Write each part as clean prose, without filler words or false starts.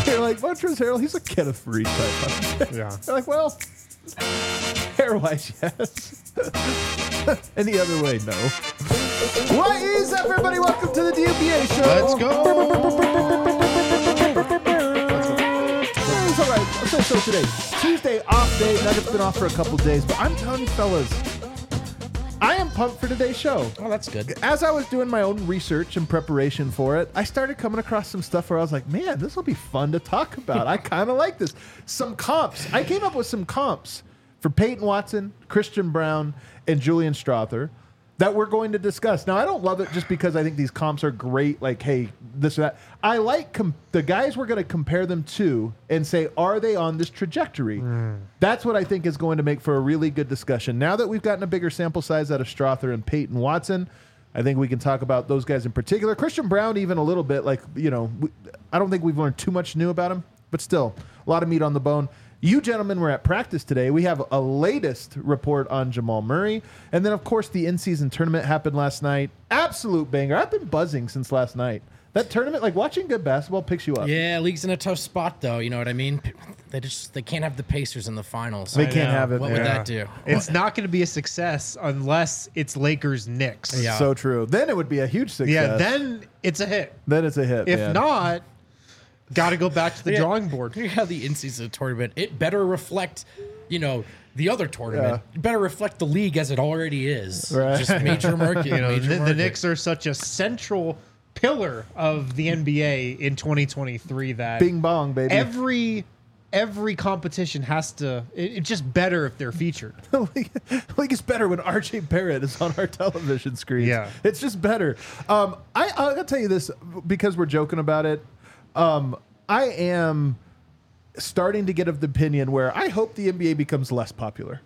You're like, Montrezl Harrell, he's a Kenneth Faried type. Yeah. You're like, well, hair-wise, yes. Any other way, no. What is up, everybody? Welcome to the DNBA show. Let's go. It's all right. So today, Tuesday, off day. Nuggets been off for a couple days, but I'm telling you, fellas, I am pumped for today's show. Oh, that's good. As I was doing my own research and preparation for it, I started coming across some stuff where I was like, man, this will be fun to talk about. I kind of like this. Some comps. I came up with some comps for Peyton Watson, Christian Brown, and Julian Strawther that we're going to discuss. Now, I don't love it just because I think these comps are great, like, hey, this or that. I like the guys we're going to compare them to and say, are they on this trajectory? That's what I think is going to make for a really good discussion. Now that we've gotten a bigger sample size out of Strawther and Peyton Watson, I think we can talk about those guys in particular. Christian Brown, even a little bit, like, you know, I don't think we've learned too much new about him, but still, a lot of meat on the bone. You gentlemen were at practice today. We have a latest report on Jamal Murray. And then, of course, the in-season tournament happened last night. Absolute banger. I've been buzzing since last night. That tournament, like watching good basketball picks you up. Yeah, league's in a tough spot, though. You know what I mean? They can't have the Pacers in the finals. They can't have it. What would that do? It's not going to be a success unless it's Lakers-Knicks. Yeah. So true. Then it would be a huge success. Yeah, then it's a hit. Then it's a hit. If man. not, got to go back to the drawing board. You have the in-season tournament. It better reflect, you know, the other tournament. It better reflect the league as it already is. Right. Just major market. You know, major the market. Knicks are such a central pillar of the NBA in 2023 that Bing bong, baby. every competition has to. It's just better if they're featured. Like it's better when RJ Barrett is on our television screen. Yeah. It's just better. I'll tell you this because we're joking about it. I am starting to get of the opinion where I hope the NBA becomes less popular.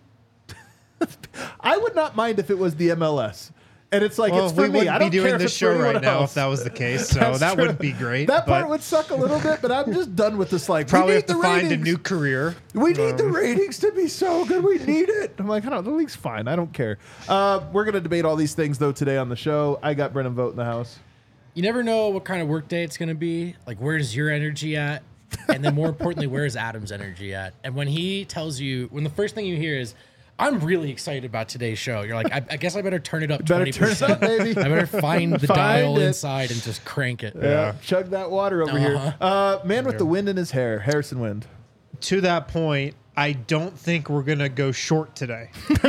I would not mind if it was the MLS. And it's like, it's for we me. I wouldn't don't be care doing if this it's for show right anyone now else. if that was the case. So That's that true. wouldn't be great. That part but would suck a little bit, but I'm just done with this. Like, probably we have need to the find a ratings. new career. We need the ratings to be so good. We need it. I'm like, I don't know. The league's fine. I don't care. We're going to debate all these things, though, today on the show. I got Brennan Vogt in the house. You never know what kind of work day it's going to be. Like, where's your energy at? And then more importantly, where's Adam's energy at? And when he tells you, when the first thing you hear is, I'm really excited about today's show. You're like, I guess I better turn it up 20%. Better turn it up, baby. I better find the Find dial it. inside and just crank it. Yeah. Chug that water over here. Man with the wind in his hair. Harrison Wind. To that point, I don't think we're going to go short today.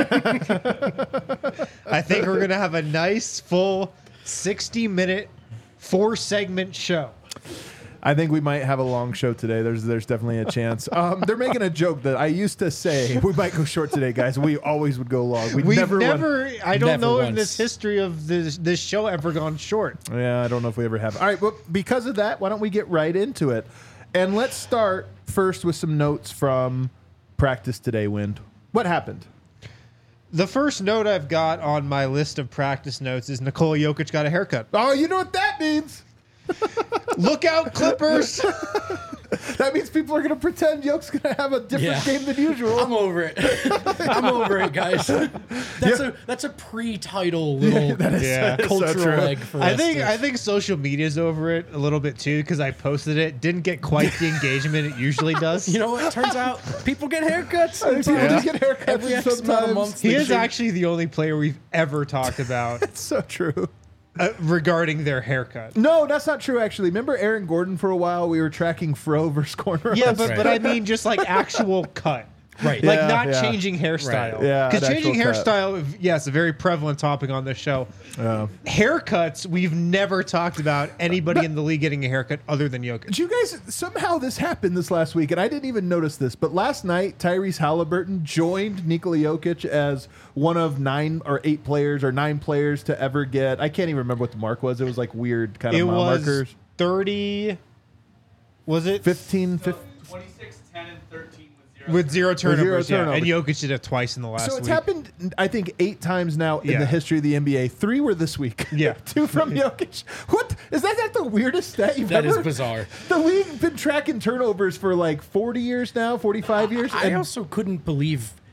I think we're going to have a nice, full 60-minute, 4-segment show. I think we might have a long show today. There's definitely a chance. They're making a joke that I used to say we might go short today, guys. We always would go long. We've never I don't Never know in once. this history of this show ever gone short. Yeah, I don't know if we ever have. All right, well, because of that, why don't we get right into it? And let's start first with some notes from practice today, Wind. What happened? The first note I've got on my list of practice notes is Nikola Jokic got a haircut. Oh, you know what that means? Look out, Clippers! That means people are going to pretend Yoke's going to have a different game than usual. I'm over it. I'm over it, guys. That's a pre-title little Yeah. cultural egg for us. I think social media's over it a little bit too because I posted it. Didn't get quite the engagement it usually does. You know what? Turns out people get haircuts. I think people just get haircuts Every X amount of sometimes. months. He they is should- actually the only player we've ever talked about It's so true. regarding their haircut. No, that's not true, actually. Remember Aaron Gordon for a while? We were tracking Fro versus corner. Yeah, Russ? but I mean just like actual cut. Right. Like Yeah, not yeah. changing hairstyle. Right. Yeah, Because an changing actual cut. hairstyle, yes, a very prevalent topic on this show. Haircuts, we've never talked about anybody in the league getting a haircut other than Jokic. Did you guys, somehow this happened this last week, and I didn't even notice this, but last night, Tyrese Halliburton joined Nikola Jokic as one of 9 or 8 players or 9 players to ever get, I can't even remember what the mark was. It was like weird kind It of mile was markers. 30, was it? 15, 26, 10, and 13 With zero turnovers, yeah. turnovers. And Jokic did it twice in the last So it's week. happened, I think, 8 times now in Yeah. the history of the NBA. 3 were this week. Yeah. 2 from Jokic. What? Is that not the weirdest stat you've That ever? is bizarre. The league been tracking turnovers for like 40 years now, 45 years. I and also couldn't believe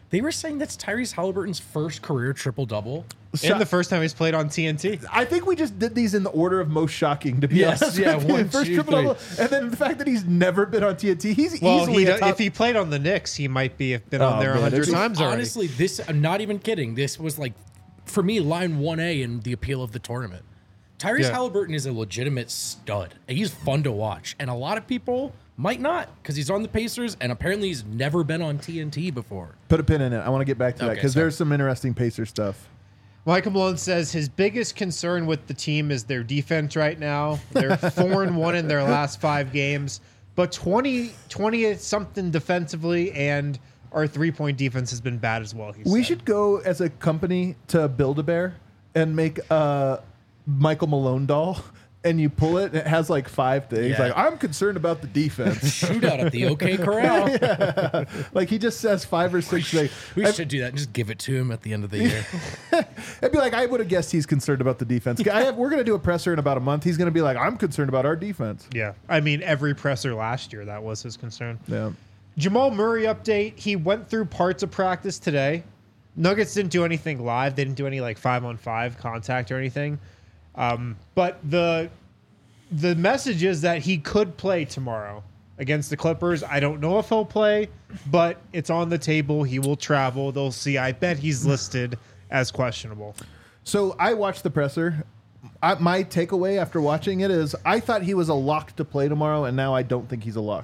They were saying that's Tyrese Halliburton's first career triple-double. And the first time he's played on TNT. I think we just did these in the order of most shocking, to be Yes, honest. yeah, with you. 1, First 2, triple-double, and then the fact that he's never been on TNT. He's Well, easily a top. if he played on the Knicks, he might have been on there man, 100 it's- times already. Honestly, this, I'm not even kidding. This was like, for me, line 1A in the appeal of the tournament. Tyrese Yeah. Halliburton is a legitimate stud. And he's fun to watch. And a lot of people might not because he's on the Pacers and apparently he's never been on TNT before. Put a pin in it. I want to get back to that Okay, because sorry. there's some interesting Pacer stuff. Michael Malone says his biggest concern with the team is their defense right now. They're 4-1 in their last 5 games, but 20 something defensively, and our 3-point defense has been bad as well. We should go as a company to Build-A-Bear and make a Michael Malone doll. And you pull it, and it has like 5 things. Yeah. Like, I'm concerned about the defense. Shootout at the OK Corral. Like, he just says 5 or 6 things. We should do that and just give it to him at the end of the year. It'd be like, I would have guessed he's concerned about the defense. We're going to do a presser in about a month. He's going to be like, I'm concerned about our defense. Yeah. I mean, every presser last year, that was his concern. Yeah. Jamal Murray update. He went through parts of practice today. Nuggets didn't do anything live. They didn't do any like 5-on-5 contact or anything. But the message is that he could play tomorrow against the Clippers. I don't know if he'll play, but it's on the table. He will travel. They'll see. I bet he's listed as questionable. So I watched the presser. My takeaway after watching it is I thought he was a lock to play tomorrow, and now I don't think he's a lock.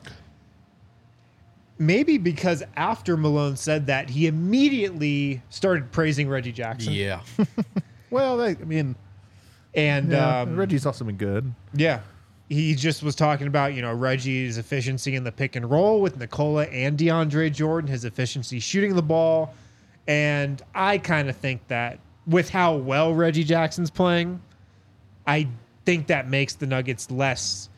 Maybe because after Malone said that, he immediately started praising Reggie Jackson. Yeah. Well, I mean, And Reggie's also been good. yeah, he just was talking about, Reggie's efficiency in the pick and roll with Nikola and DeAndre Jordan, his efficiency shooting the ball. And I kind of think that with how well Reggie Jackson's playing, I think that makes the Nuggets less,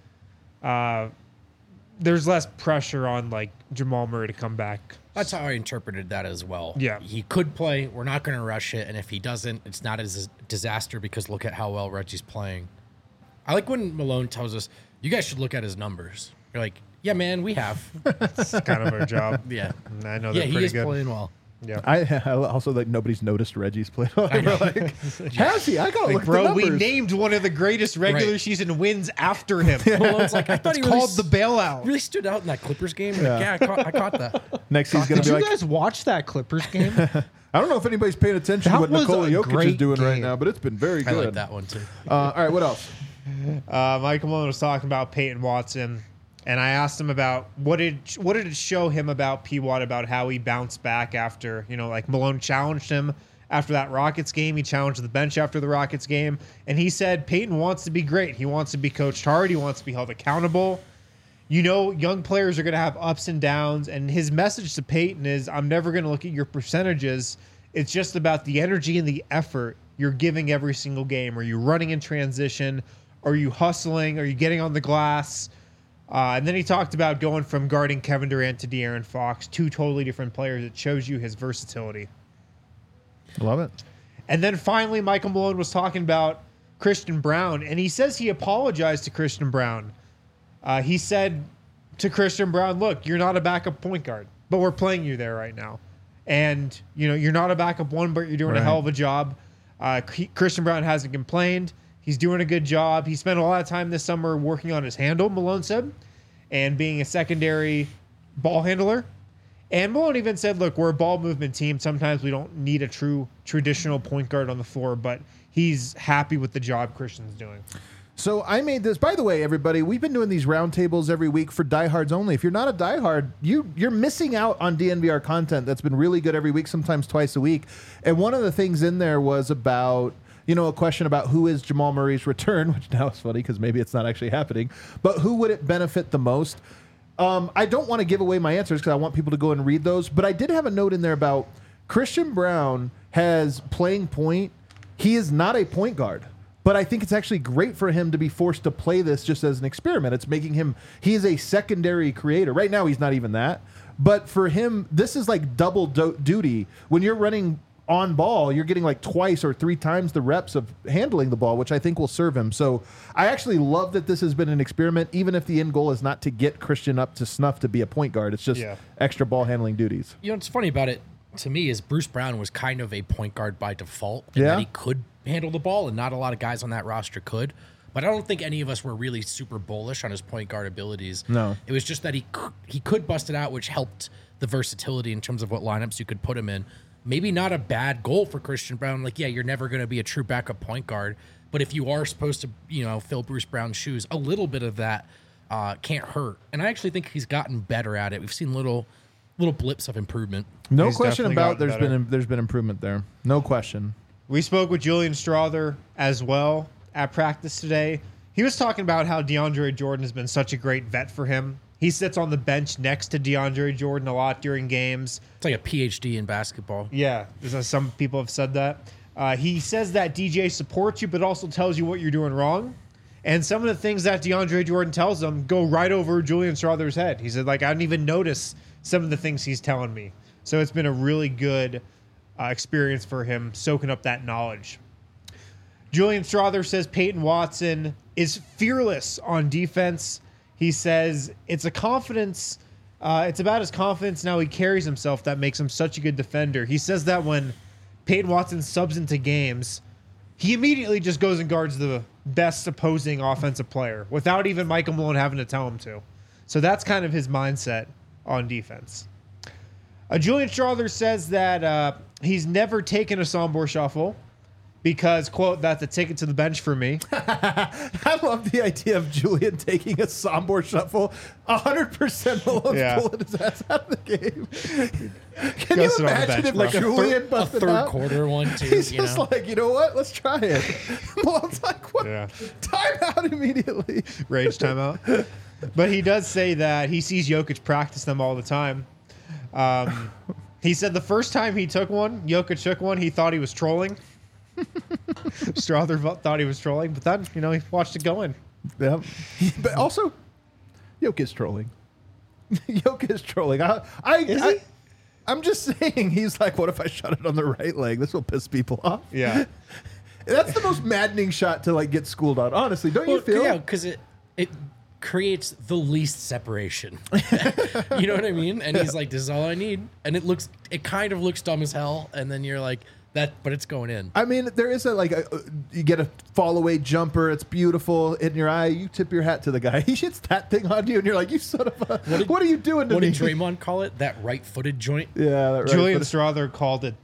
there's less pressure on like Jamal Murray to come back. That's how I interpreted that as well. Yeah. He could play. We're not going to rush it. And if he doesn't, it's not as a disaster because look at how well Reggie's playing. I like when Malone tells us, you guys should look at his numbers. You're like, yeah, man, we have. It's kind of our job. Yeah. And I know Yeah, they're he pretty is good. playing well. Yeah. I also like nobody's noticed Reggie's played. Like, has he? I gotta Like, look at the bro, numbers. we named one of the greatest regular Right. season wins after him. Malone's like, I thought It's he really called the bailout. really stood out in that Clippers game. Like, yeah, I caught that. Next, he's gonna Did be you like, guys watch that Clippers game? I don't know if anybody's paying attention That to what was Nikola a Jokic is great doing right game. now, but it's been very I good. like that one too. All right, what else? Michael Malone was talking about Peyton Watson, and I asked him about what did it show him about P. Watt about how he bounced back after, like Malone challenged him after that Rockets game. He challenged the bench after the Rockets game, and he said Peyton wants to be great. He wants to be coached hard. He wants to be held accountable. Young players are going to have ups and downs, and his message to Peyton is, I'm never going to look at your percentages. It's just about the energy and the effort you're giving every single game. Are you running in transition? Are you hustling? Are you getting on the glass? And then he talked about going from guarding Kevin Durant to De'Aaron Fox, 2 totally different players. It shows you his versatility. Love it. And then finally, Michael Malone was talking about Christian Brown, and he says he apologized to Christian Brown. He said to Christian Brown, look, you're not a backup point guard, but we're playing you there right now. And, you're not a backup one, but you're doing a Right. hell of a job. Christian Brown hasn't complained. He's doing a good job. He spent a lot of time this summer working on his handle, Malone said, and being a secondary ball handler. And Malone even said, look, we're a ball movement team. Sometimes we don't need a true traditional point guard on the floor, but he's happy with the job Christian's doing. So I made this. By the way, everybody, we've been doing these roundtables every week for diehards only. If you're not a diehard, you're missing out on DNVR content that's been really good every week, sometimes twice a week. And one of the things in there was about, a question about who is Jamal Murray's return, which now is funny because maybe it's not actually happening, but who would it benefit the most? I don't want to give away my answers because I want people to go and read those, but I did have a note in there about Christian Brown has playing point. He is not a point guard, but I think it's actually great for him to be forced to play this just as an experiment. It's making him, he is a secondary creator. Right now, he's not even that. But for him, this is like double duty. When you're running on ball, you're getting like 2 or 3 times the reps of handling the ball, which I think will serve him. So I actually love that this has been an experiment, even if the end goal is not to get Christian up to snuff to be a point guard. It's just extra ball handling duties. What's funny about it, to me is Bruce Brown was kind of a point guard by default, and Yeah. that he could handle the ball, and not a lot of guys on that roster could. But I don't think any of us were really super bullish on his point guard abilities. No. It was just that he could bust it out, which helped the versatility in terms of what lineups you could put him in. Maybe not a bad goal for Christian Brown. Like, yeah, you're never going to be a true backup point guard, but if you are supposed to, fill Bruce Brown's shoes, a little bit of that can't hurt. And I actually think he's gotten better at it. We've seen little blips of improvement. No He's question definitely about gotten there's been improvement there. No question. We spoke with Julian Strother as well at practice today. He was talking about how DeAndre Jordan has been such a great vet for him. He sits on the bench next to DeAndre Jordan a lot during games. It's like a PhD in basketball. Yeah, some people have said that. He says that DJ supports you, but also tells you what you're doing wrong. And some of the things that DeAndre Jordan tells him go right over Julian Strother's head. He said, I didn't even notice some of the things he's telling me. So it's been a really good experience for him, soaking up that knowledge. Julian Strother says Peyton Watson is fearless on defense. He says it's a confidence. It's about his confidence and how he carries himself that makes him such a good defender. He says that when Peyton Watson subs into games, he immediately just goes and guards the best opposing offensive player without even Michael Malone having to tell him to. So that's kind of his mindset on defense. Julian Strother says that he's never taken a Sombor shuffle because, quote, that's a ticket to the bench for me. I love the idea of Julian taking a Sombor shuffle. 100% Malone's pulling his ass out of the game. Can you imagine if bench, Julian A busted third out? quarter one, too. He's just like, you know what? Let's try it. Malone's like, what? Yeah. Time out immediately. Rage timeout. But he does say that he sees Jokic practice them all the time. He said the first time he took one, Jokic took one, he thought he was trolling. Strother thought he was trolling, but then, he watched it go in. Yeah. But also, Jokic's trolling. Jokic's trolling. I'm just saying, he's like, what if I shot it on the right leg? This will piss people off. Yeah. That's the most maddening shot to get schooled on. Honestly, don't you feel? Yeah, because it creates the least separation. You know what I mean? And he's like, this is all I need. And it kind of looks dumb as hell. And then you're like, but it's going in. I mean, there is you get a fall away jumper. It's beautiful in your eye. You tip your hat to the guy. He hits that thing on you, and you're like, you son of a, what are you doing to What me? did Draymond call it? That right-footed joint? Yeah, that right. Julian Strother called it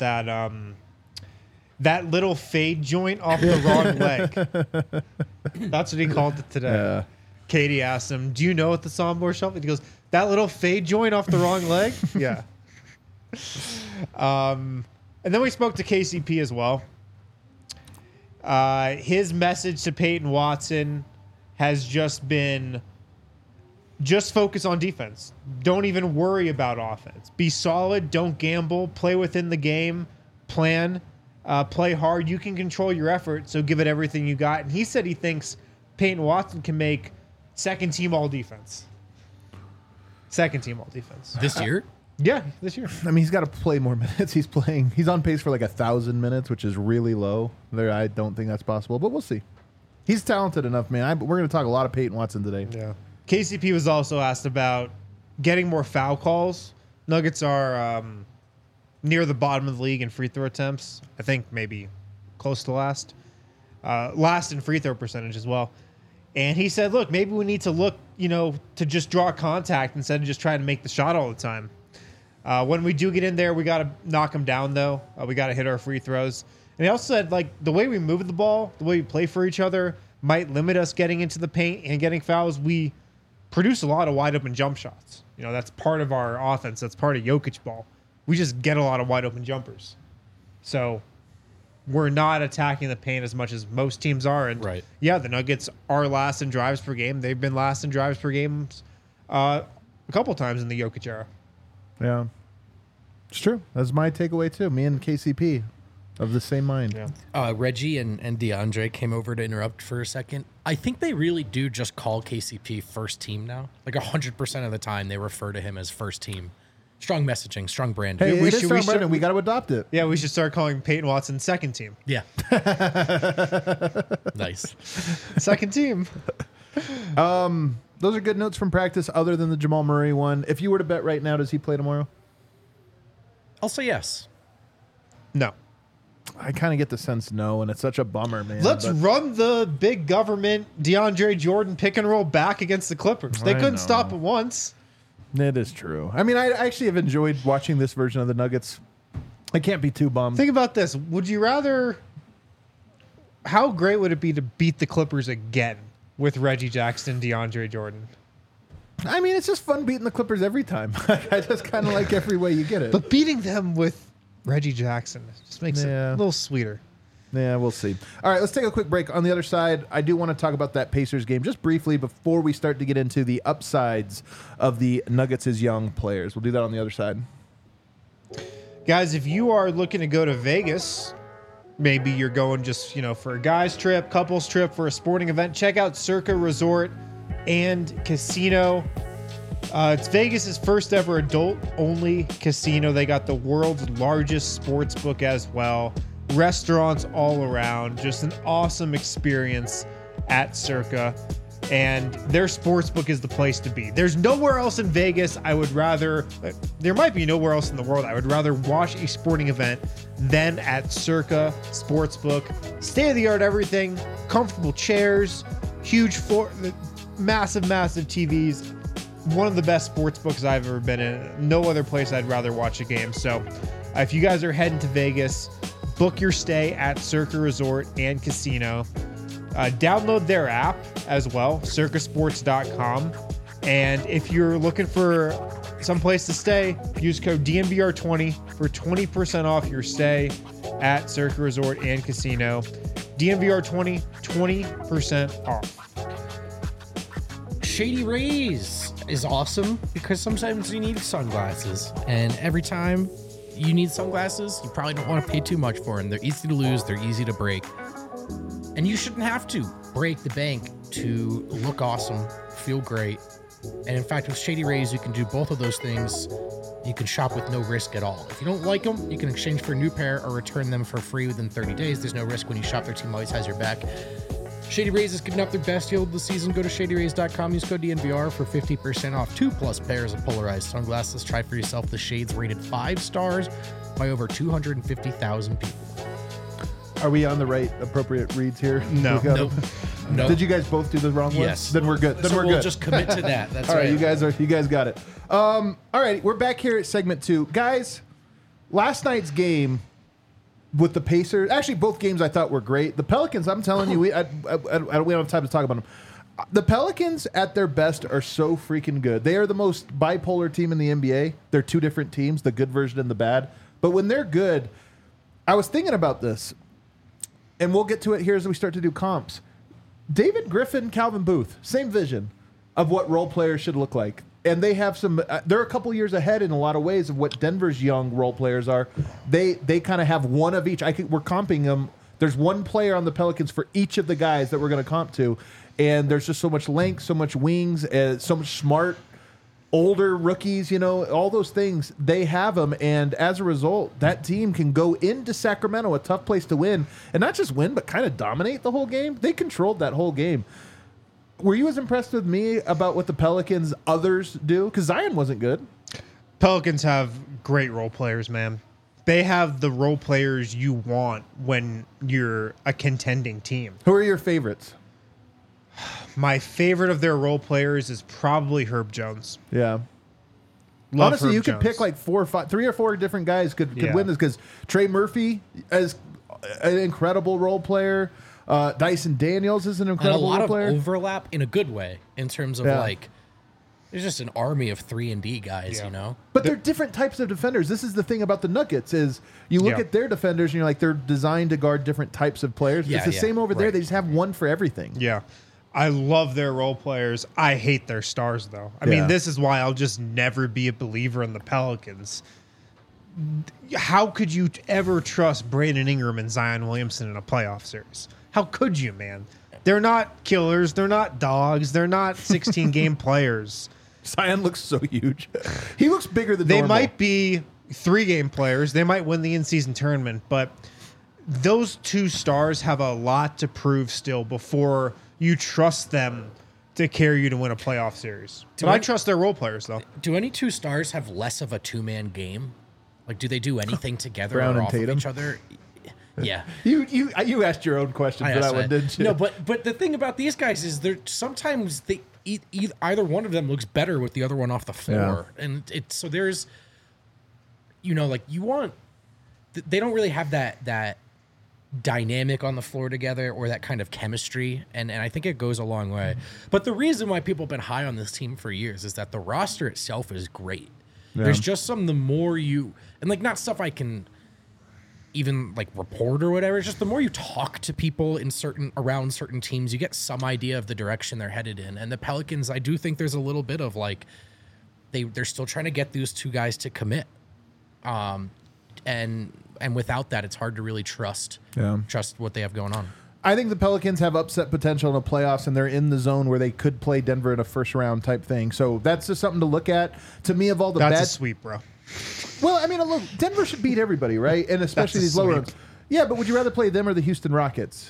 that little fade joint off the wrong leg. That's what he called it today. Yeah. Katie asked him, do you know what the Sombor shuffle? He goes, that little fade joint off the wrong leg? Yeah. And then we spoke to KCP as well. His message to Peyton Watson has just been, just focus on defense. Don't even worry about offense. Be solid. Don't gamble. Play within the game. Plan. Play hard. You can control your effort, so give it everything you got. And he said he thinks Peyton Watson can make second team all defense. Second team all defense. This year? Yeah, this year. I mean, he's got to play more minutes. He's on pace for 1,000 minutes, which is really low. I don't think that's possible, but we'll see. He's talented enough, man. We're going to talk a lot of Peyton Watson today. Yeah. KCP was also asked about getting more foul calls. Nuggets are near the bottom of the league in free throw attempts. I think maybe close to last. Last in free throw percentage as well. And he said, look, maybe we need to look, to just draw contact instead of just trying to make the shot all the time. When we do get in there, we got to knock them down, though. We got to hit our free throws. And he also said, the way we move the ball, the way we play for each other might limit us getting into the paint and getting fouls. We produce a lot of wide open jump shots. That's part of our offense. That's part of Jokic ball. We just get a lot of wide open jumpers. So we're not attacking the paint as much as most teams are. And Right. yeah, the Nuggets are last in drives per game. They've been last in drives per game a couple times in the Jokic era. Yeah. It's true. That's my takeaway, too. Me and KCP of the same mind. Yeah. Reggie and DeAndre came over to interrupt for a second. I think they really do just call KCP first team now. 100% of the time they refer to him as first team. Strong messaging, strong branding. Hey, we it is should- strong we should- branding. We got to adopt it. Yeah, we should start calling Peyton Watson second team. Yeah. Nice. Second team. Those are good notes from practice other than the Jamal Murray one. If you were to bet right now, does he play tomorrow? I'll say yes. No. I kind of get the sense no, and it's such a bummer, man. Let's but- run the big government DeAndre Jordan pick and roll back against the Clippers. They I couldn't know. stop it once. It is true. I mean, I actually have enjoyed watching this version of the Nuggets. I can't be too bummed. Think about this. Would you rather... How great would it be to beat the Clippers again with Reggie Jackson, DeAndre Jordan? I mean, it's just fun beating the Clippers every time. I just kind of like every way you get it. But beating them with Reggie Jackson just makes it Yeah. a little sweeter. Yeah, we'll see. All right, let's take a quick break. On the other side, I do want to talk about that Pacers game just briefly before we start to get into the upsides of the Nuggets' young players. We'll do that on the other side. Guys, if you are looking to go to Vegas, maybe you're going just, for a guy's trip, couples trip, for a sporting event, check out Circa Resort and Casino. It's Vegas's first ever adult-only casino. They got the world's largest sports book as well. Restaurants all around. Just an awesome experience at Circa. And their sports book is the place to be. There's nowhere else in Vegas there might be nowhere else in the world I would rather watch a sporting event than at Circa Sportsbook. State-of-the-art everything, comfortable chairs, huge massive TVs. One of the best sports books I've ever been in. No other place I'd rather watch a game. So if you guys are heading to Vegas, book your stay at Circa Resort and Casino. Download their app as well, circasports.com. And if you're looking for some place to stay, use code DNVR20 for 20% off your stay at Circa Resort and Casino. DNVR20, 20% off. Shady Rays is awesome because sometimes you need sunglasses, and every time you need sunglasses, you probably don't want to pay too much for them. They're easy to lose, they're easy to break, and you shouldn't have to break the bank to look awesome, feel great. And in fact, with Shady Rays, you can do both of those things. You can shop with no risk at all. If you don't like them, you can exchange for a new pair or return them for free within 30 days. There's no risk when you shop. Their team always has your back. Shady Rays is giving up their best deal of the season. Go to shadyrays.com. Use code DNVR for 50% off 2+ pairs of polarized sunglasses. Try for yourself the shades rated 5 stars by over 250,000 people. Are we on the right appropriate reads here? No. We got Nope. them? Nope. Did you guys both do the wrong ones? Yes. Then we're good. Then So we're we'll good. just commit to that. That's All right, right. you guys got it. All right, we're back here at segment 2. Guys, last night's game with the Pacers, actually both games I thought were great. The Pelicans, I'm telling you, we don't have time to talk about them. The Pelicans at their best are so freaking good. They are the most bipolar team in the NBA. They're two different teams, the good version and the bad. But when they're good, I was thinking about this, and we'll get to it here as we start to do comps. David Griffin, Calvin Booth, same vision of what role players should look like. And they have some, they're a couple years ahead in a lot of ways of what Denver's young role players are. They kind of have one of each. We're comping them. There's one player on the Pelicans for each of the guys that we're going to comp to. And there's just so much length, so much wings, so much smart, older rookies, all those things. They have them. And as a result, that team can go into Sacramento, a tough place to win, and not just win, but kind of dominate the whole game. They controlled that whole game. Were you as impressed with me about what the Pelicans others do? Because Zion wasn't good. Pelicans have great role players, man. They have the role players you want when you're a contending team. Who are your favorites? My favorite of their role players is probably Herb Jones. Yeah. Love Honestly, Herb you could Jones. pick like 3 or 4 different guys could Yeah. win this, because Trey Murphy is an incredible role player. Dyson Daniels is an And a incredible lot role of player. overlap in a good way in terms of Yeah. there's just an army of 3-and-D guys, Yeah. But they're different types of defenders. This is the thing about the Nuggets is you look Yeah. at their defenders and you're like, they're designed to guard different types of players. Yeah, it's the yeah, same over there. right. They just have one for everything. Yeah. I love their role players. I hate their stars, though. I Yeah. mean, this is why I'll just never be a believer in the Pelicans. How could you ever trust Brandon Ingram and Zion Williamson in a playoff series? How could you, man? They're not killers. They're not dogs. They're not 16-game players. Zion looks so huge. He looks bigger than They normal. might be 3-game players. They might win the in-season tournament, but those two stars have a lot to prove still before you trust them to carry you to win a playoff series. But I trust their role players, though. Do any two stars have less of a 2-man game? Like, do they do anything together Brown or and off Tatum? of each other? Yeah. You asked your own question for that one, didn't you? No, but the thing about these guys is they're sometimes either one of them looks better with the other one off the floor, and so there's, like they don't really have that dynamic on the floor together or that kind of chemistry, and I think it goes a long way. But the reason why people have been high on this team for years is that the roster itself is great. Yeah. There's just the more not stuff I can even report or whatever. It's just the more you talk to people around certain teams, you get some idea of the direction they're headed in. And the Pelicans, I do think there's a little bit of they're still trying to get those two guys to commit. And without that, it's hard to really trust what they have going on. I think the Pelicans have upset potential in the playoffs, and they're in the zone where they could play Denver in a first round type thing. So that's just something to look at. To me, of all the That's a sweep, bro. Well, I mean, look, Denver should beat everybody, right? And especially these lower ones. Yeah, but would you rather play them or the Houston Rockets?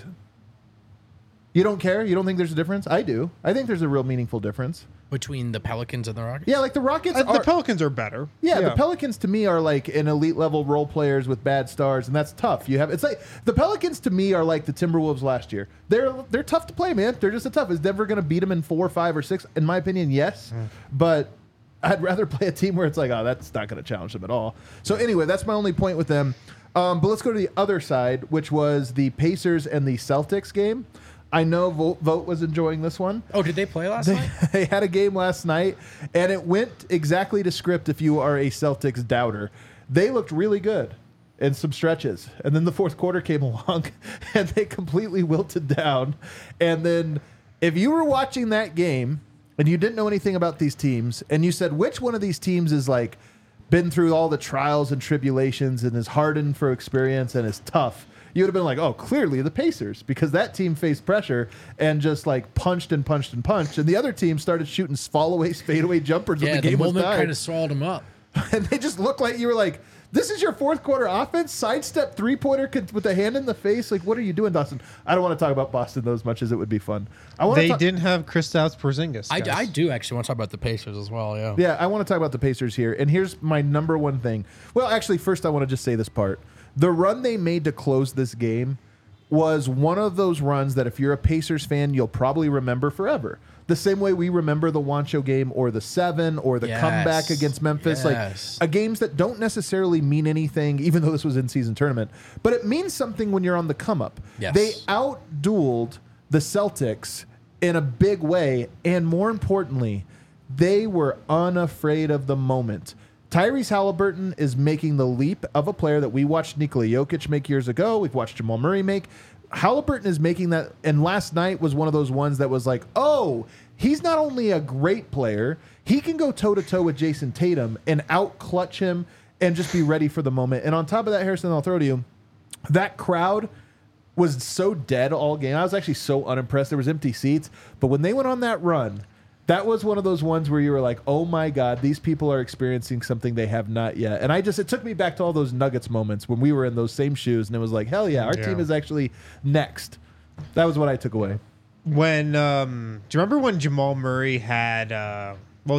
You don't care? You don't think there's a difference? I do. I think there's a real meaningful difference. Between the Pelicans and the Rockets? Yeah, the Rockets The Pelicans are better. Yeah, the Pelicans to me are an elite level role players with bad stars, and that's tough. It's like the Pelicans to me are like the Timberwolves last year. They're tough to play, man. They're just tough. Is Denver going to beat them in 4, 5, or 6? In my opinion, yes. But I'd rather play a team where it's that's not going to challenge them at all. So anyway, that's my only point with them. But let's go to the other side, which was the Pacers and the Celtics game. I know Vogt was enjoying this one. Oh, did they play last night? They had a game last night, and it went exactly to script if you are a Celtics doubter. They looked really good in some stretches, and then the fourth quarter came along, and they completely wilted down. And then if you were watching that game and you didn't know anything about these teams, and you said, which one of these teams is been through all the trials and tribulations and is hardened for experience and is tough, you would have been oh, clearly the Pacers, because that team faced pressure and just punched and punched and punched, and the other team started shooting fadeaway jumpers when the game was moment tied. kind of swallowed them up. And they just looked like you were this is your fourth quarter offense? Sidestep three-pointer with a hand in the face? What are you doing, Dawson? I don't want to talk about Boston though as much as it would be fun. They didn't have Kristaps Porzingis. I do actually want to talk about the Pacers as well, yeah. Yeah, I want to talk about the Pacers here. And here's my number one thing. Well, actually, first I want to just say this part. The run they made to close this game was one of those runs that if you're a Pacers fan, you'll probably remember forever. The same way we remember the Wancho game or the 7 or the comeback against Memphis. Games that don't necessarily mean anything, even though this was in-season tournament. But it means something when you're on the come-up. Yes. They out-dueled the Celtics in a big way, and more importantly, they were unafraid of the moment. Tyrese Halliburton is making the leap of a player that we watched Nikola Jokic make years ago. We've watched Jamal Murray make. Halliburton is making that, and last night was one of those ones that was oh, he's not only a great player, he can go toe-to-toe with Jason Tatum and out-clutch him and just be ready for the moment. And on top of that, Harrison, I'll throw to you, that crowd was so dead all game. I was actually so unimpressed. There was empty seats. But when they went on that run, that was one of those ones where you were oh my God, these people are experiencing something they have not yet. And it took me back to all those Nuggets moments when we were in those same shoes, and it was hell yeah, our team is actually next. That was what I took away. When do you remember when Jamal Murray had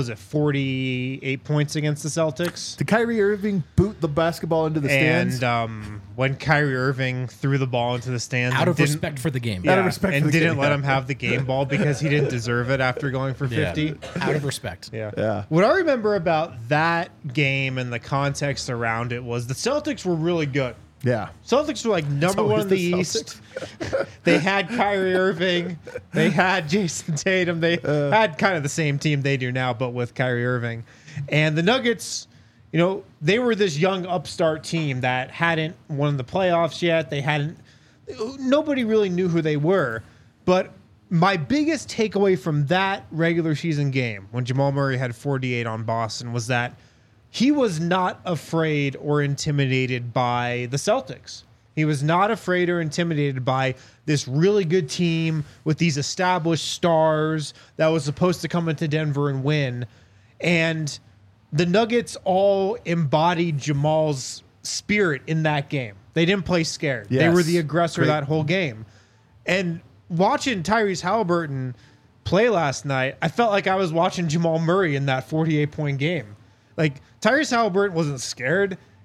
48 points against the Celtics? Did Kyrie Irving boot the basketball into the stands? And when Kyrie Irving threw the ball into the stands out of respect for the game. Yeah, out of respect and for the didn't game. let him have the game ball because he didn't deserve it after going for 50. Out of respect. Yeah. What I remember about that game and the context around it was the Celtics were really good. Yeah. Celtics were number one in the East. They had Kyrie Irving. They had Jason Tatum. They had kind of the same team they do now, but with Kyrie Irving. And the Nuggets, they were this young upstart team that hadn't won the playoffs yet. Nobody really knew who they were. But my biggest takeaway from that regular season game when Jamal Murray had 48 on Boston was that he was not afraid or intimidated by the Celtics. He was not afraid or intimidated by this really good team with these established stars that was supposed to come into Denver and win. And the Nuggets all embodied Jamal's spirit in that game. They didn't play scared. Yes. They were the aggressor Great. that whole game. And watching Tyrese Halliburton play last night, I felt like I was watching Jamal Murray in that 48-point game. Tyrese Halliburton wasn't scared.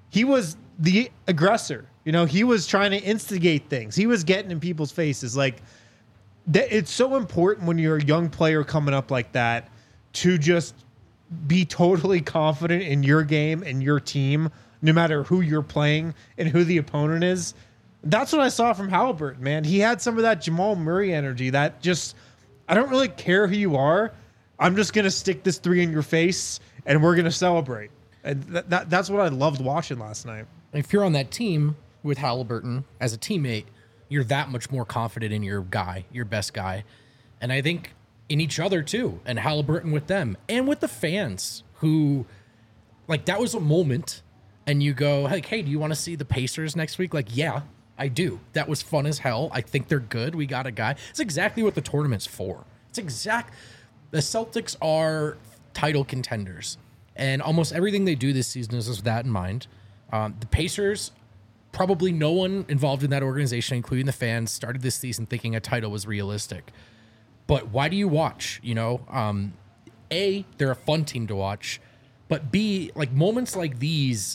he was the aggressor. You know, he was trying to instigate things. He was getting in people's faces. Like, it's so important when you're a young player coming up like that to just be totally confident in your game and your team, no matter who you're playing and who the opponent is. That's what I saw from Halliburton, man. He had some of that Jamal Murray energy that just, I don't really care who you are. I'm just going to stick this 3 in your face and we're going to celebrate. And that's what I loved watching last night. If you're on that team with Halliburton as a teammate, you're that much more confident in your guy, your best guy. And I think in each other too, and Halliburton with them and with the fans who, like, that was a moment and you go, like, hey, do you want to see the Pacers next week? Like, yeah, I do. That was fun as hell. I think they're good. We got a guy. It's exactly what the tournament's for. The Celtics are title contenders, and almost everything they do this season is with that in mind. The Pacers, probably no one involved in that organization, including the fans, started this season thinking a title was realistic. But why do you watch? You know, A, they're a fun team to watch, but B, like, moments like these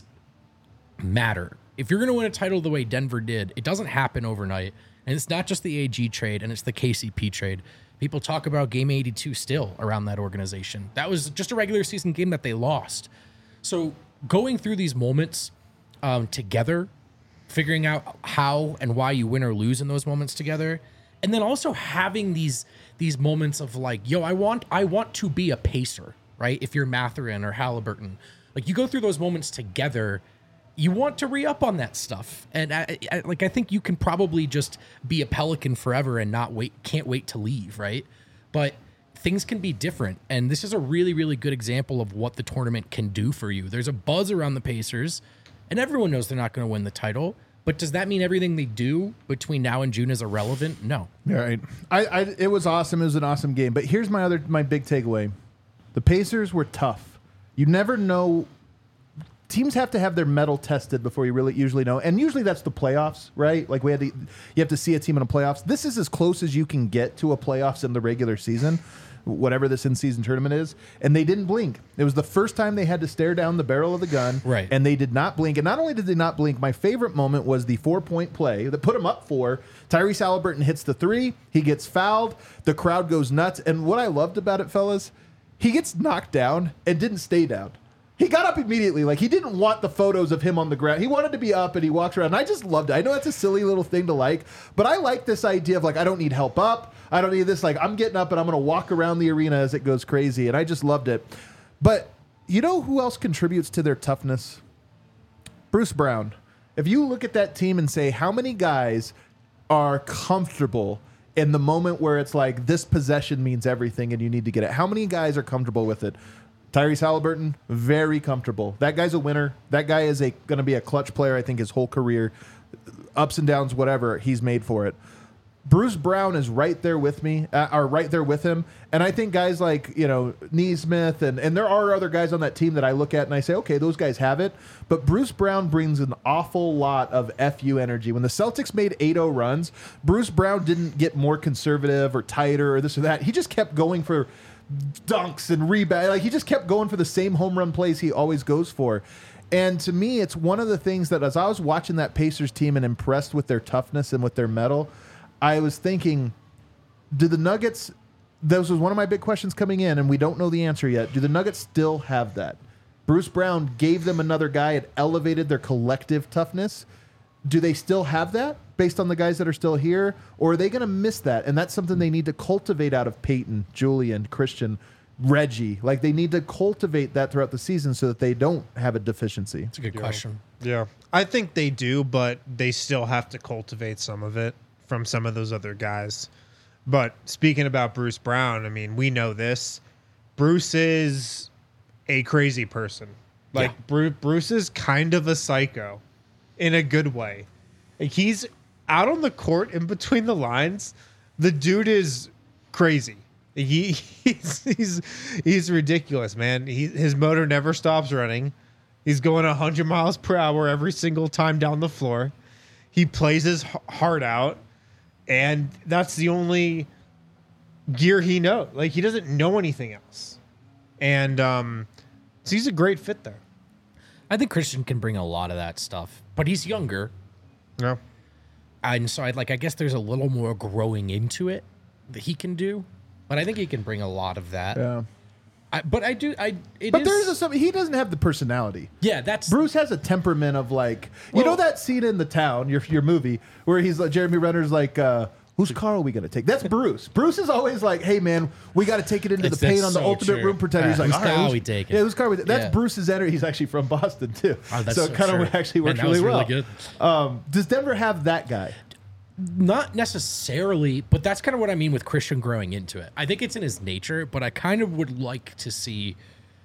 matter. If you're going to win a title the way Denver did, it doesn't happen overnight. And it's not just the AG trade and it's the KCP trade. People talk about Game 82 still around that organization. That was just a regular season game that they lost. So going through these moments together, figuring out how and why you win or lose in those moments together, and then also having these moments of like, yo, I want to be a Pacer, right? If you're Mathurin or Halliburton, like, you go through those moments together, you want to re-up on that stuff. And I think you can probably just be a Pelican forever and can't wait to leave, right? But things can be different. And this is a really, really good example of what the tournament can do for you. There's a buzz around the Pacers, and everyone knows they're not going to win the title. But does that mean everything they do between now and June is irrelevant? No. All right. It was awesome. It was an awesome game. But here's my big takeaway. The Pacers were tough. You never know. Teams have to have their mettle tested before you really usually know. And usually that's the playoffs, right? Like, you have to see a team in the playoffs. This is as close as you can get to a playoffs in the regular season, whatever this in-season tournament is. And they didn't blink. It was the first time they had to stare down the barrel of the gun. Right. And they did not blink. And not only did they not blink, my favorite moment was the 4-point play that put them up 4. Tyrese Halliburton hits the 3. He gets fouled. The crowd goes nuts. And what I loved about it, fellas, he gets knocked down and didn't stay down. He got up immediately. Like, he didn't want the photos of him on the ground. He wanted to be up, and he walks around. And I just loved it. I know that's a silly little thing to like, but I like this idea of, like, I don't need help up. I don't need this. Like, I'm getting up, and I'm going to walk around the arena as it goes crazy. And I just loved it. But you know who else contributes to their toughness? Bruce Brown. If you look at that team and say, how many guys are comfortable in the moment where it's like, this possession means everything and you need to get it? How many guys are comfortable with it? Tyrese Halliburton, very comfortable. That guy's a winner. That guy is going to be a clutch player, I think, his whole career. Ups and downs, whatever, he's made for it. Bruce Brown is right there with me, or right there with him. And I think guys like, Nesmith, and there are other guys on that team that I look at and I say, okay, those guys have it. But Bruce Brown brings an awful lot of FU energy. When the Celtics made 8-0 runs, Bruce Brown didn't get more conservative or tighter or this or that. He just kept going for dunks and rebounds. Like, he just kept going for the same home run plays he always goes for. And to me, it's one of the things that, as I was watching that Pacers team and impressed with their toughness and with their mettle, I was thinking, do the Nuggets, this was one of my big questions coming in, and we don't know the answer yet, do the Nuggets still have that? Bruce Brown gave them another guy. It elevated their collective toughness. Do they still have that based on the guys that are still here? Or are they going to miss that? And that's something they need to cultivate out of Peyton, Julian, Christian, Reggie. Like, they need to cultivate that throughout the season so that they don't have a deficiency. That's a good question. Yeah. I think they do, but they still have to cultivate some of it from some of those other guys. But speaking about Bruce Brown, I mean, we know this. Bruce is a crazy person. Like, yeah. Bruce is kind of a psycho in a good way. Like, he's out on the court in between the lines. The dude is crazy. He's ridiculous, man. His motor never stops running. He's going 100 miles per hour every single time down the floor. He plays his heart out, and that's the only gear he knows. Like, he doesn't know anything else. And so he's a great fit there. I think Christian can bring a lot of that stuff, but he's younger. Yeah. And so I guess there's a little more growing into it that he can do, but I think he can bring a lot of that. Yeah. But there's something he doesn't have the personality. Yeah, that's Bruce has a temperament of like, you know that scene in The Town, your movie, where he's like, Jeremy Renner's like, whose car are we going to take? That's Bruce. Bruce is always like, hey man, we got to take it into the paint on the ultimate room protector. He's like, whose all right, car are we taking? Yeah, whose car are we taking? That's Yeah. Bruce's energy. He's actually from Boston too. Oh, that's so it kind of actually works Man, that was really well. really good. Does Denver have that guy? Not necessarily, but that's kind of what I mean with Christian growing into it. I think it's in his nature, but I kind of would like to see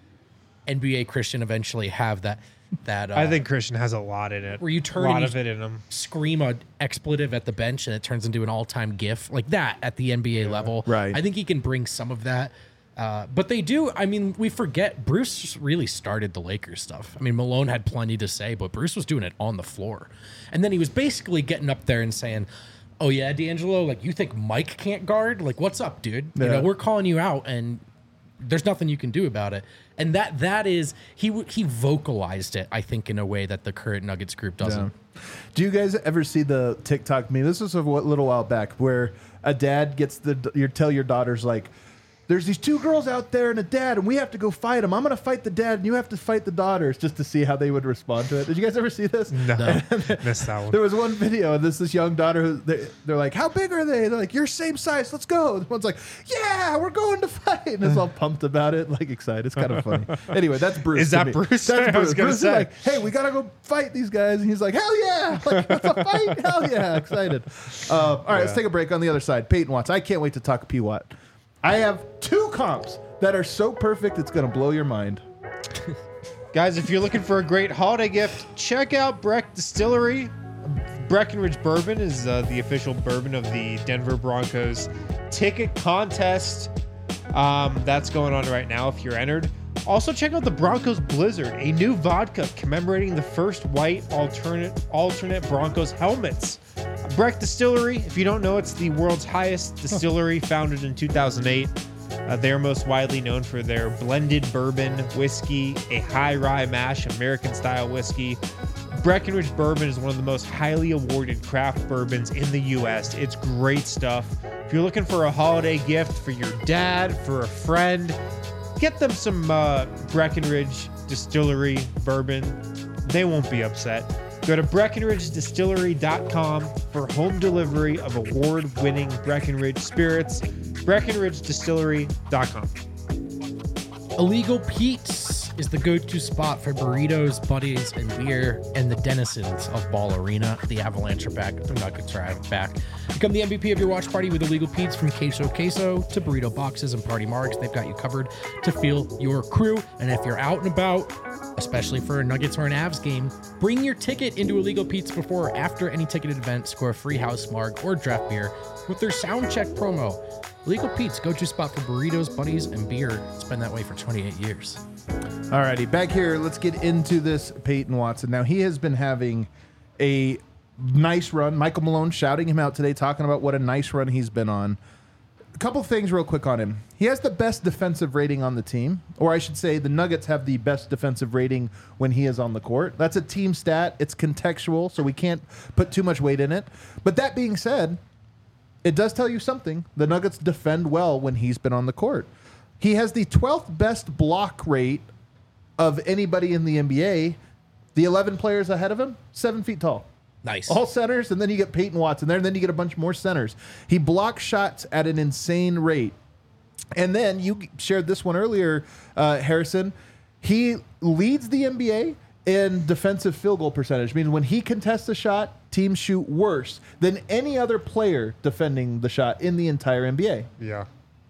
NBA Christian eventually have that. I think Christian has a lot in it. Where you turn a lot and of it in him. Scream an expletive at the bench and it turns into an all-time GIF like that at the NBA level. Right. I think he can bring some of that. But they do. I mean, we forget Bruce really started the Lakers stuff. I mean, Malone had plenty to say, but Bruce was doing it on the floor. And then he was basically getting up there and saying, oh, yeah, D'Angelo, like, you think Mike can't guard? Like, what's up, dude? Yeah. You know, we're calling you out, and there's nothing you can do about it. And that is, he vocalized it, I think, in a way that the current Nuggets group doesn't. Yeah. Do you guys ever see the TikTok meme? This was a little while back where a dad gets tell your daughters, like, there's these two girls out there and a dad, and we have to go fight them. I'm going to fight the dad, and you have to fight the daughters, just to see how they would respond to it. Did you guys ever see this? No. Missed that one. There was one video, and this young daughter, they're like, how big are they? They're like, you're same size, let's go. The one's like, yeah, we're going to fight. And it's all pumped about it, like excited. It's kind of funny. Anyway, that's Bruce. Is to that me. Bruce? That's I Bruce. was gonna Bruce is say. like, hey, we got to go fight these guys. And he's like, hell yeah. Like, let's a fight. Hell yeah. Excited. All right, let's take a break. On the other side, Peyton Watts. I can't wait to talk P-Watt. I have 2 comps that are so perfect it's going to blow your mind. Guys, if you're looking for a great holiday gift, check out Breck Distillery. Breckenridge Bourbon is the official bourbon of the Denver Broncos ticket contest. That's going on right now if you're entered. Also, check out the Broncos Blizzard, a new vodka commemorating the first white alternate Broncos helmets. Breck Distillery, if you don't know, it's the world's highest distillery, founded in 2008. They are most widely known for their blended bourbon, whiskey, a high rye mash, American-style whiskey. Breckenridge Bourbon is one of the most highly awarded craft bourbons in the U.S. It's great stuff. If you're looking for a holiday gift for your dad, for a friend, get them some Breckenridge Distillery bourbon. They won't be upset. Go to BreckenridgeDistillery.com for home delivery of award-winning Breckenridge spirits. BreckenridgeDistillery.com. Illegal Pete's is the go-to spot for burritos, buddies, and beer, and the denizens of Ball Arena. The Avalanche are back. The Nuggets are back. Become the MVP of your watch party with Illegal Pete's. From queso to burrito boxes and party marks, they've got you covered to feel your crew. And if you're out and about, especially for a Nuggets or an Avs game, bring your ticket into Illegal Pete's before or after any ticketed event. Score a free house marg or draft beer with their sound check promo. Illegal Pete's, go-to spot for burritos, buddies, and beer. It's been that way for 28 years. All righty, back here, let's get into this Peyton Watson. Now, he has been having a nice run. Michael Malone shouting him out today, talking about what a nice run he's been on. A couple things real quick on him. He has the best defensive rating on the team, or I should say the Nuggets have the best defensive rating when he is on the court. That's a team stat. It's contextual, so we can't put too much weight in it. But that being said, it does tell you something. The Nuggets defend well when he's been on the court. He has the 12th best block rate of anybody in the NBA. The 11 players ahead of him, 7 feet tall. Nice. All centers, and then you get Peyton Watson there, and then you get a bunch more centers. He blocks shots at an insane rate. And then you shared this one earlier, Harrison. He leads the NBA in defensive field goal percentage, meaning when he contests a shot, teams shoot worse than any other player defending the shot in the entire NBA. Yeah.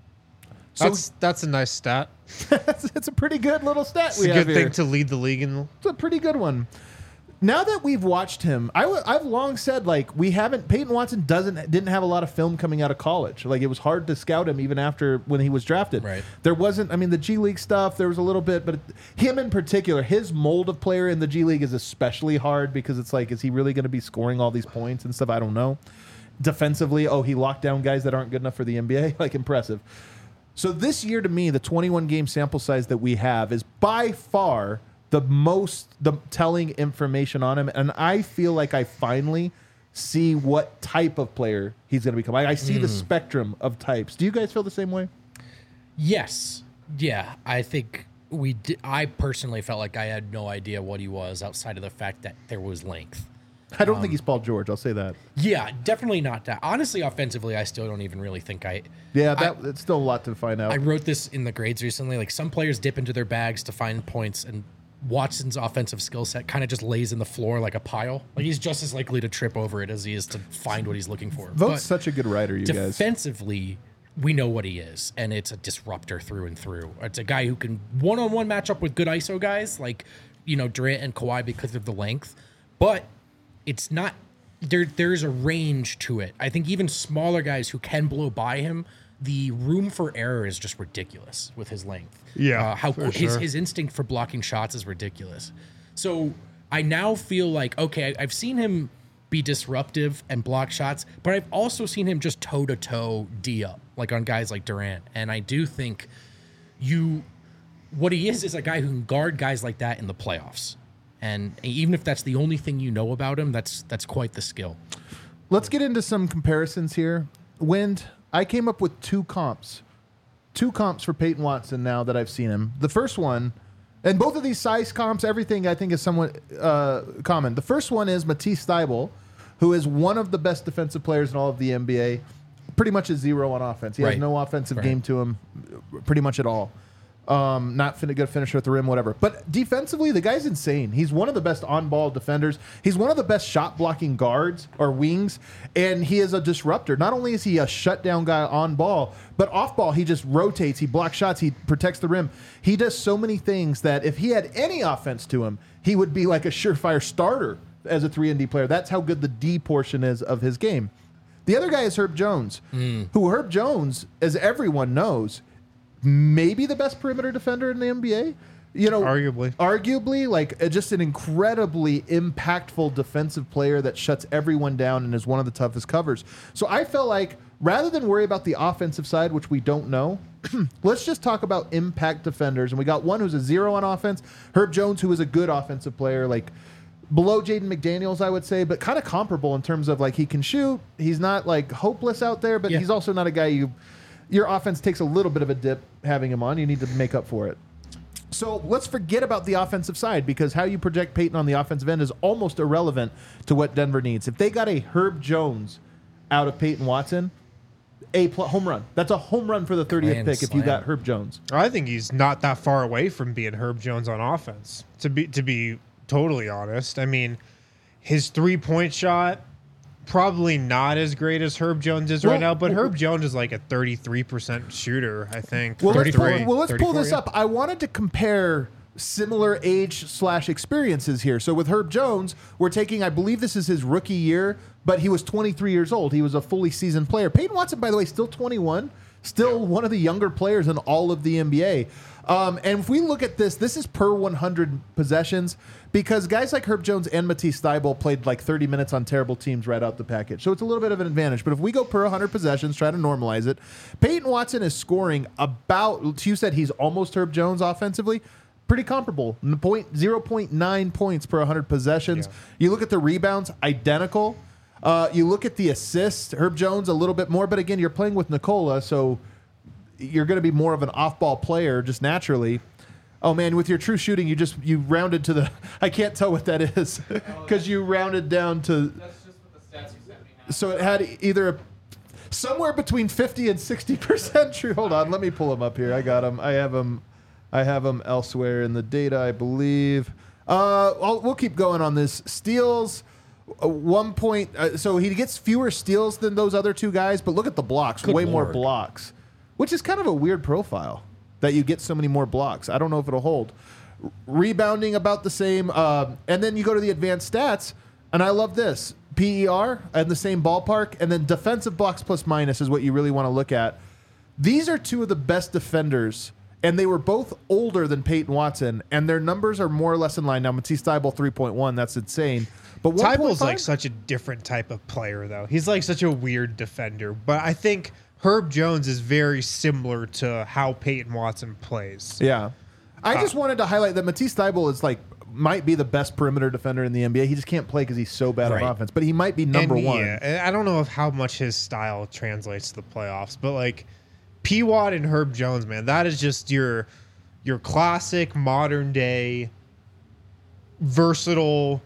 So That's a nice stat. it's a pretty good little stat It's we a have good here. thing to lead the league in. It's a pretty good one. Now that we've watched him, I've long said, like, Peyton Watson didn't have a lot of film coming out of college. Like, it was hard to scout him even after when he was drafted. Right. There wasn't, I mean, the G League stuff, there was a little bit, but him in particular, his mold of player in the G League is especially hard because it's like, is he really going to be scoring all these points and stuff? I don't know. Defensively, he locked down guys that aren't good enough for the NBA. Like, impressive. So this year, to me, the 21-game sample size that we have is by far the telling information on him, and I feel like I finally see what type of player he's going to become. I see the spectrum of types. Do you guys feel the same way? Yes. Yeah, I think we did. I personally felt like I had no idea what he was outside of the fact that there was length. I don't think he's Paul George. I'll say that. Yeah, definitely not that. Honestly, offensively, I still don't even really think It's still a lot to find out. I wrote this in the grades recently. Like, some players dip into their bags to find points, and Watson's offensive skill set kind of just lays in the floor like a pile. Like, he's just as likely to trip over it as he is to find what he's looking for. Vote's such a good writer, you guys. Defensively, we know what he is, and it's a disruptor through and through. It's a guy who can one-on-one match up with good ISO guys like, Durant and Kawhi because of the length, but it's not there's a range to it. I think even smaller guys who can blow by him, the room for error is just ridiculous with his length. Yeah, his instinct for blocking shots is ridiculous. So I now feel like, okay, I've seen him be disruptive and block shots, but I've also seen him just toe-to-toe D up, like on guys like Durant. And I do think what he is a guy who can guard guys like that in the playoffs. And even if that's the only thing you know about him, that's quite the skill. Let's get into some comparisons here. Wind, I came up with two comps for Peyton Watson now that I've seen him. The first one, and both of these size comps, everything I think is somewhat common. The first one is Matisse Thybulle, who is one of the best defensive players in all of the NBA. Pretty much a zero on offense. He has no offensive game to him pretty much at all. Not good finisher at the rim, whatever. But defensively, the guy's insane. He's one of the best on-ball defenders. He's one of the best shot-blocking guards or wings, and he is a disruptor. Not only is he a shutdown guy on ball, but off ball, he just rotates. He blocks shots. He protects the rim. He does so many things that if he had any offense to him, he would be like a surefire starter as a 3-and-D player. That's how good the D portion is of his game. The other guy is Herb Jones, who Herb Jones, as everyone knows, maybe the best perimeter defender in the NBA. Arguably, like just an incredibly impactful defensive player that shuts everyone down and is one of the toughest covers. So I felt like rather than worry about the offensive side, which we don't know, let's just talk about impact defenders. And we got one who's a zero on offense, Herb Jones, who is a good offensive player, like below Jaden McDaniels, I would say, but kind of comparable in terms of like he can shoot. He's not like hopeless out there, but he's also not a guy your offense takes a little bit of a dip having him on. You need to make up for it. So let's forget about the offensive side, because how you project Peyton on the offensive end is almost irrelevant to what Denver needs. If they got a Herb Jones out of Peyton Watson, home run. That's a home run for the 30th pick if you got Herb Jones. I think he's not that far away from being Herb Jones on offense, to be totally honest. I mean, his three-point shot, probably not as great as Herb Jones is right now, but Herb Jones is like a 33% shooter, I think. Well, let's pull this up. I wanted to compare similar age/experiences here. So with Herb Jones, we're taking, I believe this is his rookie year, but he was 23 years old. He was a fully seasoned player. Peyton Watson, by the way, still 21, still one of the younger players in all of the NBA. And if we look at this is per 100 possessions, because guys like Herb Jones and Matisse Thybulle played like 30 minutes on terrible teams right out the package. So it's a little bit of an advantage. But if we go per 100 possessions, try to normalize it, Peyton Watson is scoring about, you said he's almost Herb Jones offensively, pretty comparable, 0.9 points per 100 possessions. Yeah. You look at the rebounds, identical. You look at the assists, Herb Jones a little bit more, but again, you're playing with Nikola, so you're going to be more of an off-ball player just naturally. Oh, man, with your true shooting, you rounded to the... I can't tell what that is because you rounded down to... That's just what the stats you sent me have. So it had either somewhere between 50 and 60% true. Hold on, let me pull them up here. I got them. I have them elsewhere in the data, I believe. We'll keep going on this. Steals... 1 point. So he gets fewer steals than those other two guys, but look at the blocks. Way more blocks, which is kind of a weird profile that you get so many more blocks. I don't know if it'll hold. Rebounding about the same. And then you go to the advanced stats, and I love this. PER in the same ballpark, and then defensive blocks plus minus is what you really want to look at. These are two of the best defenders, and they were both older than Peyton Watson, and their numbers are more or less in line. Now, Matisse Thybulle 3.1, that's insane. But Tybulle's like such a different type of player, though. He's like such a weird defender. But I think Herb Jones is very similar to how Peyton Watson plays. Yeah. I just wanted to highlight that Matisse Thybulle is might be the best perimeter defender in the NBA. He just can't play because he's so bad Right. on offense. But he might be number one. Yeah, I don't know how much his style translates to the playoffs, but like P. Watt and Herb Jones, man, that is just your classic modern day versatile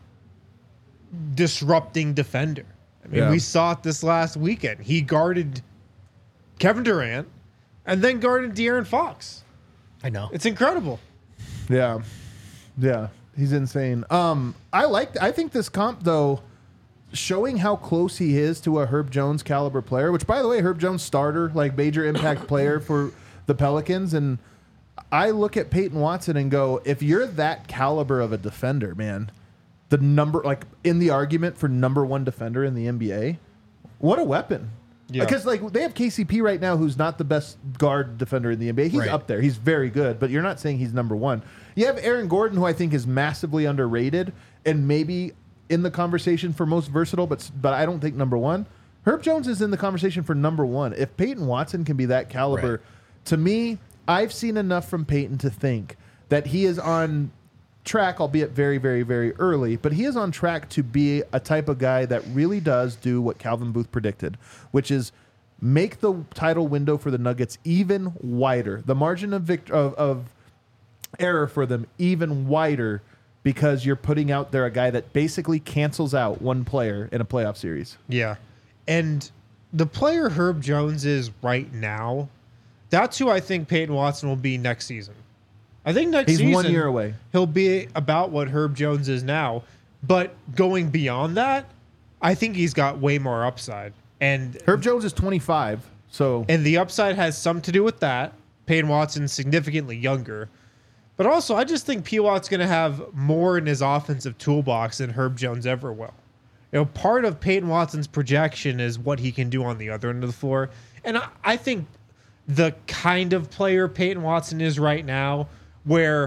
disrupting defender. I mean, Yeah. we saw it this last weekend. He guarded Kevin Durant and then guarded De'Aaron Fox. I know. It's incredible. Yeah. Yeah. He's insane. I think this comp though, showing how close he is to a Herb Jones caliber player, which by the way, Herb Jones starter, major impact player for the Pelicans. And I look at Peyton Watson and go, if you're that caliber of a defender, man, the number, in the argument for number one defender in the NBA, what a weapon. Yeah. Because they have KCP right now, who's not the best guard defender in the NBA. He's Right. up there. He's very good, but you're not saying he's number one. You have Aaron Gordon, who I think is massively underrated and maybe in the conversation for most versatile, but I don't think number one. Herb Jones is in the conversation for number one. If Peyton Watson can be that caliber, Right. to me, I've seen enough from Peyton to think that he is on track, albeit very, very, very early, but he is on track to be a type of guy that really does do what Calvin Booth predicted, which is make the title window for the Nuggets even wider, the margin of error for them even wider, because you're putting out there a guy that basically cancels out one player in a playoff series. Yeah. And the player Herb Jones is right now, that's who I think Peyton Watson will be next season. I think next He's season 1 year away. he'll be about what Herb Jones is now. But going beyond that, I think he's got way more upside. And Herb Jones is 25, so the upside has some to do with that. Peyton Watson's significantly younger. But also, I just think P. Watt's going to have more in his offensive toolbox than Herb Jones ever will. Part of Peyton Watson's projection is what he can do on the other end of the floor. And I think the kind of player Peyton Watson is right now, where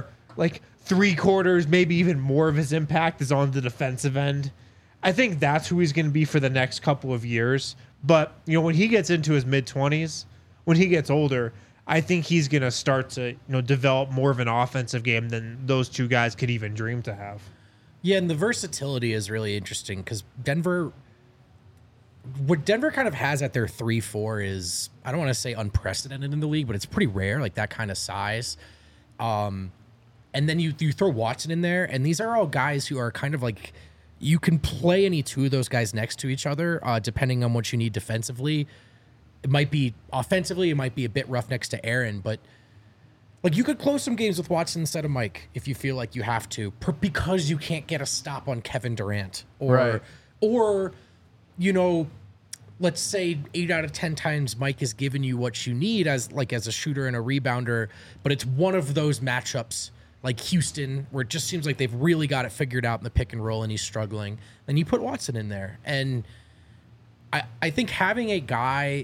3/4, maybe even more of his impact is on the defensive end, I think that's who he's going to be for the next couple of years. But, when he gets into his mid-20s, when he gets older, I think he's going to start to, develop more of an offensive game than those two guys could even dream to have. Yeah, and the versatility is really interesting because what Denver kind of has at their 3-4 is, I don't want to say unprecedented in the league, but it's pretty rare, that kind of size. And then you throw Watson in there, and these are all guys who are kind of you can play any two of those guys next to each other, depending on what you need defensively. It might be offensively, it might be a bit rough next to Aaron, but you could close some games with Watson instead of Mike if you feel like you have to, because you can't get a stop on Kevin Durant, Right. or let's say 8 out of 10 times Mike has given you what you need as a shooter and a rebounder, but it's one of those matchups like Houston where it just seems like they've really got it figured out in the pick and roll and he's struggling. Then you put Watson in there, and I think having a guy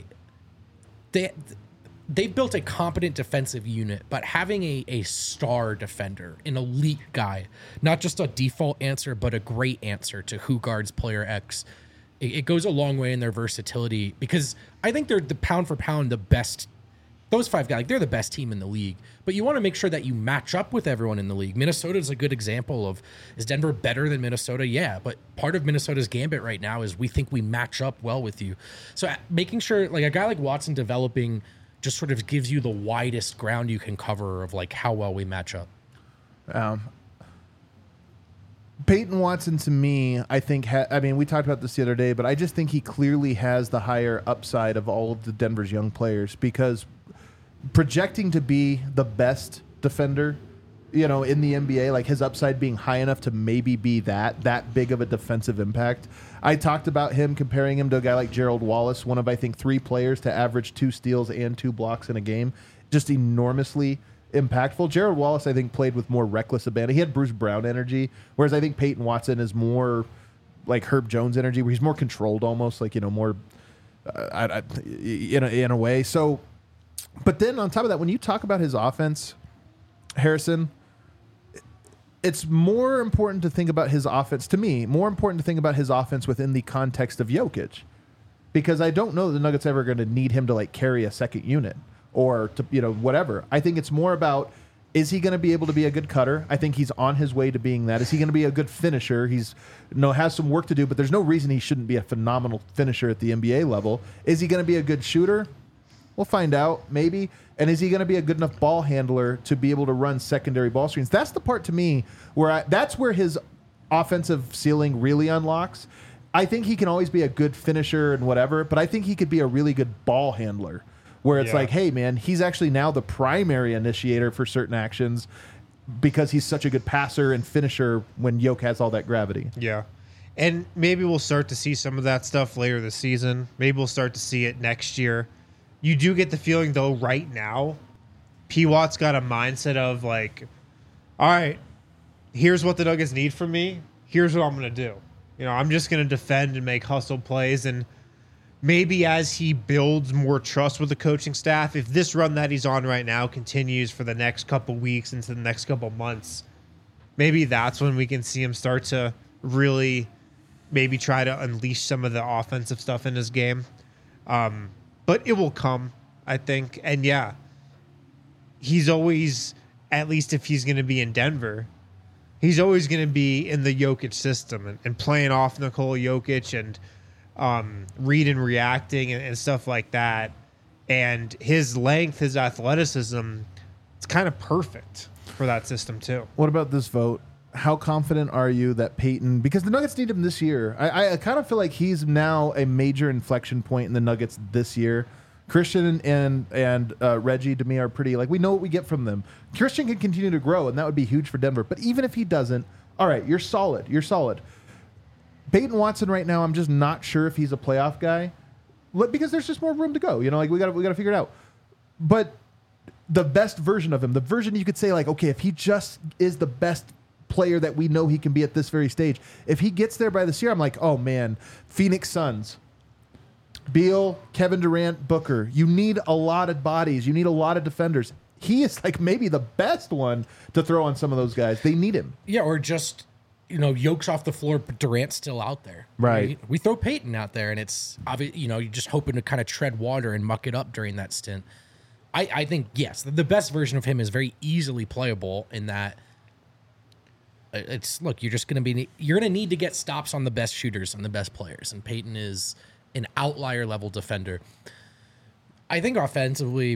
they've built a competent defensive unit, but having a star defender, an elite guy, not just a default answer, but a great answer to who guards player X, it goes a long way in their versatility, because I think they're the pound for pound the best. Those 5 guys, they're the best team in the league, but you want to make sure that you match up with everyone in the league. Minnesota is a good example of, is Denver better than Minnesota? Yeah, but part of Minnesota's gambit right now is we think we match up well with you. So making sure a guy like Watson developing just sort of gives you the widest ground you can cover of how well we match up. Peyton Watson, to me, I think, we talked about this the other day, but I just think he clearly has the higher upside of all of the Denver's young players, because projecting to be the best defender, in the NBA, his upside being high enough to maybe be that big of a defensive impact. I talked about him, comparing him to a guy like Gerald Wallace, one of, I think, 3 players to average 2 steals and 2 blocks in a game. Just enormously impactful. Gerald Wallace, I think, played with more reckless abandon. He had Bruce Brown energy, whereas I think Peyton Watson is more like Herb Jones energy, where he's more controlled, almost more in a way. So, but then on top of that, when you talk about his offense, Harrison, it's more important to think about his offense, to me, more important to think about his offense within the context of Jokic, because I don't know that the Nuggets ever going to need him to carry a second unit or to, whatever. I think it's more about Is he going to be able to be a good cutter? I think he's on his way to being that. Is he going to be a good finisher? He's has some work to do, but there's no reason he shouldn't be a phenomenal finisher at the NBA level. Is he going to be a good shooter? We'll find out, maybe. And is he going to be a good enough ball handler to be able to run secondary ball screens? That's the part to me where that's where his offensive ceiling really unlocks. I think he can always be a good finisher and whatever, but I think he could be a really good ball handler where it's like, hey, man, he's actually now the primary initiator for certain actions because he's such a good passer and finisher when Yoke has all that gravity. Yeah. And maybe we'll start to see some of that stuff later this season. Maybe we'll start to see it next year. You do get the feeling, though, right now, P. Watt's got a mindset of like, all right, here's what the Nuggets need from me. Here's what I'm going to do. I'm just going to defend and make hustle plays. And maybe as he builds more trust with the coaching staff, if this run that he's on right now continues for the next couple weeks into the next couple months, maybe that's when we can see him start to really maybe try to unleash some of the offensive stuff in his game. But it will come, I think. And yeah, he's always, at least if he's going to be in Denver, he's always going to be in the Jokic system and playing off Nikola Jokic and read and reacting and stuff like that. And his length, his athleticism, it's kind of perfect for that system too. What about this vote? How confident are you that Peyton, because the Nuggets need him this year. I kind of feel like he's now a major inflection point in the Nuggets this year. Christian and Reggie, to me, are pretty, like, we know what we get from them. Christian can continue to grow, and that would be huge for Denver. But even if he doesn't, all right, you're solid. You're solid. Peyton Watson right now, I'm just not sure if he's a playoff guy because there's just more room to go. Like, we got to figure it out. But the best version of him, the version you could say, like, okay, if he just is the best player that we know he can be at this very stage, if he gets there by this year, I'm like, oh man, Phoenix Suns, Beal, Kevin Durant, Booker, you need a lot of bodies, you need a lot of defenders. He is like maybe the best one to throw on some of those guys. They need him. Yeah, or just Yoke's off the floor, but Durant's still out there. Right. We throw Peyton out there, and it's obvious. You're just hoping to kind of tread water and muck it up during that stint. I think yes, the best version of him is very easily playable in that. You're gonna need to get stops on the best shooters and the best players, and Peyton is an outlier level defender. I think offensively,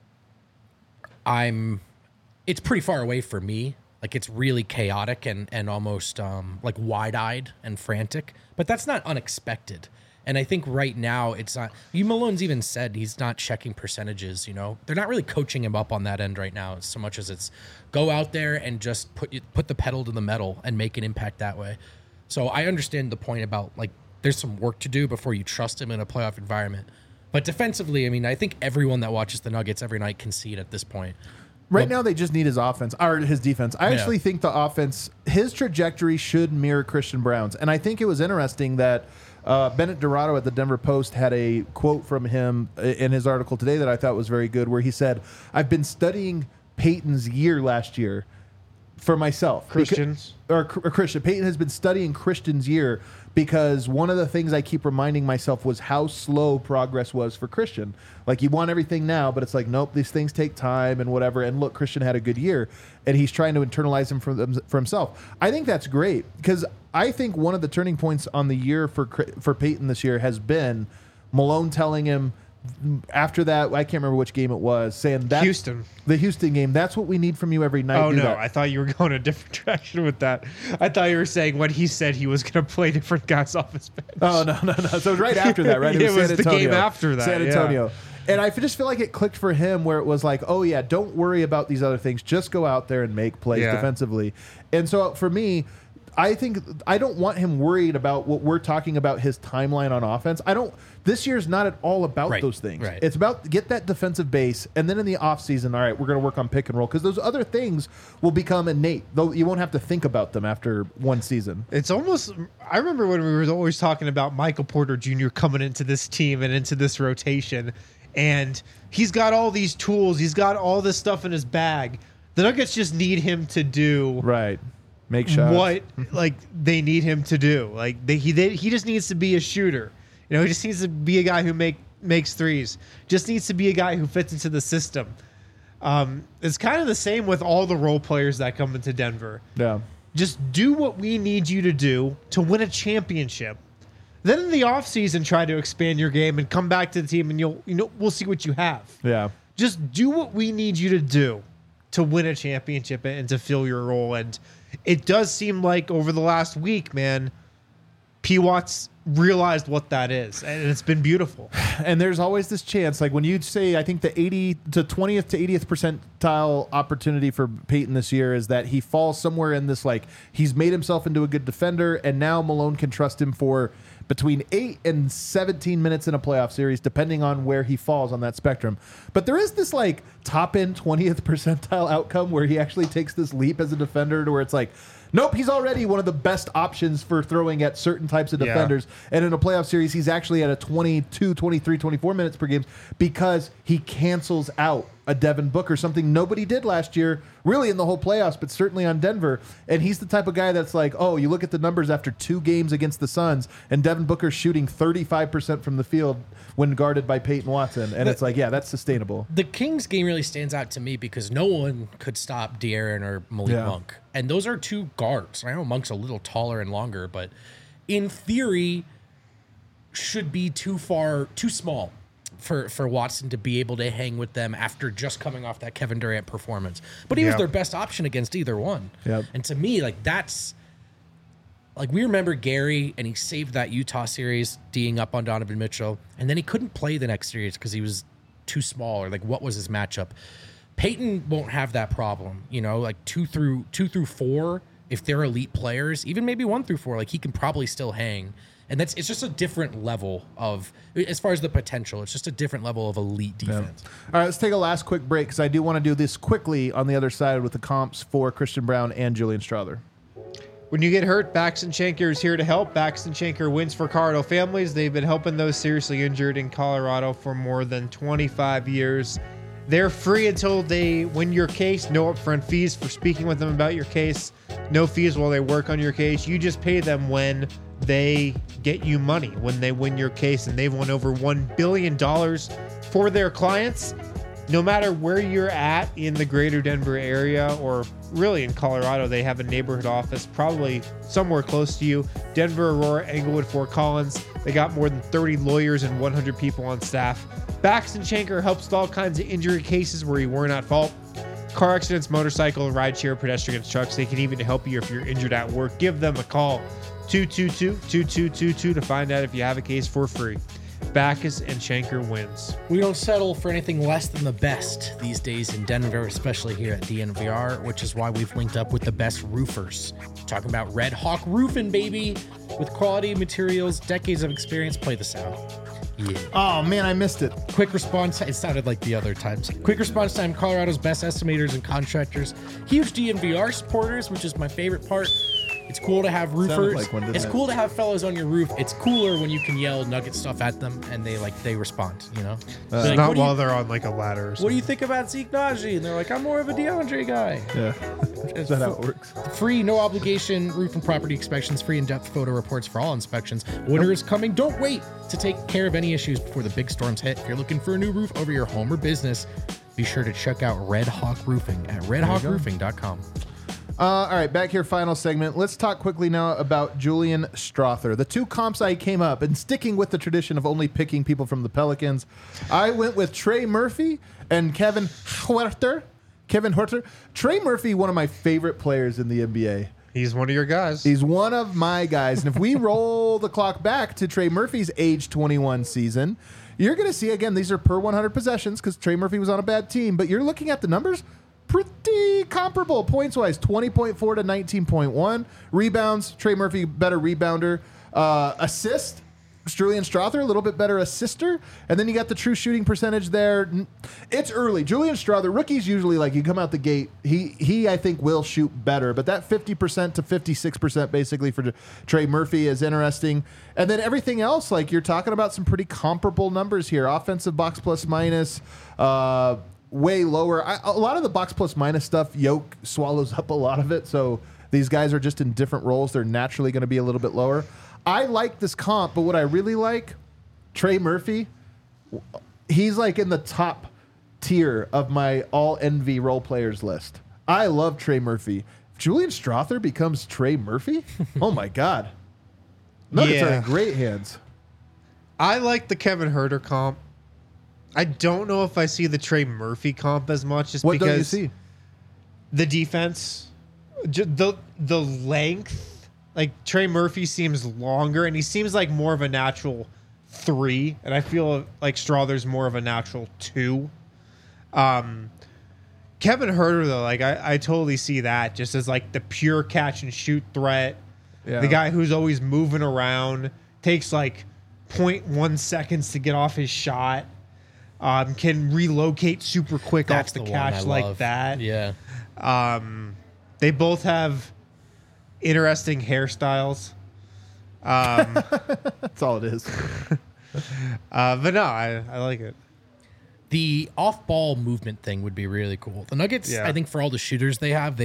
it's pretty far away for me. Like, it's really chaotic and almost like wide-eyed and frantic, but that's not unexpected. And I think right now it's not. Malone's even said he's not checking percentages. They're not really coaching him up on that end right now, so much as it's go out there and just put the pedal to the metal and make an impact that way. So I understand the point about like there's some work to do before you trust him in a playoff environment. But defensively, I think everyone that watches the Nuggets every night can see it at this point. Right now, they just need his offense or his defense. I actually think the offense, his trajectory should mirror Christian Brown's. And I think it was interesting that Bennett Dorado at the Denver Post had a quote from him in his article today that I thought was very good, where he said, I've been studying Peyton's year last year for myself. Christian. Peyton has been studying Christian's year because one of the things I keep reminding myself was how slow progress was for Christian. Like, you want everything now, but it's like, nope, these things take time and whatever. And look, Christian had a good year, and he's trying to internalize them for himself. I think that's great because I think one of the turning points on the year for Peyton this year has been Malone telling him, after that, I can't remember which game it was, saying that the Houston game, that's what we need from you every night. Oh, no, I thought you were going a different direction with that. I thought you were saying when he said he was going to play different guys off his bench. Oh, no. So it was right after that, right? It was the game after that. San Antonio. Yeah. And I just feel like it clicked for him where it was like, oh, yeah, don't worry about these other things. Just go out there and make plays defensively. And so for me, I think I don't want him worried about what we're talking about, his timeline on offense. This year's not at all about those things. Right. It's about get that defensive base, and then in the offseason, all right, we're going to work on pick and roll because those other things will become innate, though you won't have to think about them after one season. It's almost, I remember when we were always talking about Michael Porter Jr. coming into this team and into this rotation, and he's got all these tools, he's got all this stuff in his bag. The Nuggets just need him to do make shots. What they need him to do. He just needs to be a shooter. He just needs to be a guy who makes threes. Just needs to be a guy who fits into the system. It's kind of the same with all the role players that come into Denver. Yeah. Just do what we need you to do to win a championship. Then in the offseason, try to expand your game and come back to the team, and we'll see what you have. Yeah. Just do what we need you to do to win a championship and to fill your role. And it does seem like over the last week, man, P. Watts realized what that is, and it's been beautiful. And there's always this chance, like when you say, I think the 20th to 80th percentile opportunity for Peyton this year is that he falls somewhere in this, like he's made himself into a good defender, and now Malone can trust him for between 8 and 17 minutes in a playoff series, depending on where he falls on that spectrum. But there is this like top end 20th percentile outcome where he actually takes this leap as a defender to where it's like, nope, he's already one of the best options for throwing at certain types of defenders. And in a playoff series, he's actually at a 22, 23, 24 minutes per game because he cancels out a Devin Booker, something nobody did last year, really in the whole playoffs, but certainly on Denver. And he's the type of guy that's like, oh, you look at the numbers after 2 games against the Suns, and Devin Booker's shooting 35% from the field when guarded by Peyton Watson. And it's like, yeah, that's sustainable. The Kings game really stands out to me because no one could stop De'Aaron or Malik Monk. And those are 2 guards. I know Monk's a little taller and longer, but in theory should be too small for Watson to be able to hang with them after just coming off that Kevin Durant performance. But he was their best option against either one. Yep. And to me, like that's like we remember Gary, and he saved that Utah series D'ing up on Donovan Mitchell, and then he couldn't play the next series because he was too small, or like what was his matchup. Peyton won't have that problem, like 2 through 4. If they're elite players, even maybe 1 through 4, like he can probably still hang. And it's just a different level of, as far as the potential, it's just a different level of elite defense. Yeah. All right, let's take a last quick break because I do want to do this quickly on the other side with the comps for Christian Braun and Julian Strawther. When you get hurt, Baxton Shanker is here to help. Baxton Shanker wins for Colorado families. They've been helping those seriously injured in Colorado for more than 25 years. They're free until they win your case. No upfront fees for speaking with them about your case. No fees while they work on your case. You just pay them when they get you money, when they win your case, and they've won over $1 billion for their clients. No matter where you're at in the greater Denver area, or really in Colorado, they have a neighborhood office probably somewhere close to you. Denver, Aurora, Englewood, Fort Collins. They got more than 30 lawyers and 100 people on staff. Baxton Shanker helps with all kinds of injury cases where you weren't at fault. Car accidents, motorcycle, rideshare, pedestrians, trucks. They can even help you if you're injured at work. Give them a call. 222-2222 to find out if you have a case for free. Backus and Shanker wins. We don't settle for anything less than the best these days in Denver, especially here at DNVR, which is why we've linked up with the best roofers. Talking about Red Hawk Roofing, baby. With quality materials, decades of experience. Play the sound. Yeah. Oh, man, I missed it. Quick response. It sounded like the other times. Quick response time. Colorado's best estimators and contractors. Huge DNVR supporters, which is my favorite part. It's cool to have roofers. It's cool to have fellows on your roof. It's cooler when you can yell Nugget stuff at them and they respond, Like, not while they're on like a ladder or something. What do you think about Zeke Naji? And they're like, I'm more of a DeAndre guy. Yeah. Is that how it works? Free, no obligation roof and property inspections, free in-depth photo reports for all inspections. Winter is coming. Don't wait to take care of any issues before the big storms hit. If you're looking for a new roof over your home or business, be sure to check out Red Hawk Roofing at redhawkroofing.com. All right, back here, final segment. Let's talk quickly now about Julian Strawther. The 2 comps I came up, and sticking with the tradition of only picking people from the Pelicans, I went with Trey Murphy and Kevin Huerter. Trey Murphy, one of my favorite players in the NBA. He's one of your guys. He's one of my guys. And if we roll the clock back to Trey Murphy's age 21 season, you're going to see, again, these are per 100 possessions because Trey Murphy was on a bad team, but you're looking at the numbers. Pretty comparable points-wise, 20.4 to 19.1. Rebounds, Trey Murphy, better rebounder. Assist, Julian Strawther, a little bit better assister. And then you got the true shooting percentage there. It's early. Julian Strawther, rookies usually, like, you come out the gate, he I think, will shoot better. But that 50% to 56% basically for Trey Murphy is interesting. And then everything else, like, you're talking about some pretty comparable numbers here. Offensive box plus minus, way lower. A lot of the box plus minus stuff, Yoke swallows up a lot of it. So these guys are just in different roles. They're naturally going to be a little bit lower. I like this comp, but what I really like, Trey Murphy, he's like in the top tier of my all envy role players list. I love Trey Murphy. If Julian Strother becomes Trey Murphy, oh my God. Nuggets are in great hands. I like the Kevin Huerter comp. I don't know if I see the Trey Murphy comp as much, just What because don't you see? the defense, the length. Like Trey Murphy seems longer, and he seems like more of a natural 3, and I feel like Strother's more of a natural 2. Kevin Huerter though, like I totally see that just as like the pure catch and shoot threat. Yeah. The guy who's always moving around, takes like 0.1 seconds to get off his shot. Can relocate super quick That's off the the one catch I like love. that. Yeah. They both have interesting hairstyles. That's all it is. But no, I like it. The off-ball movement thing would be really cool. The Nuggets, Yeah. I think, for all the shooters they have,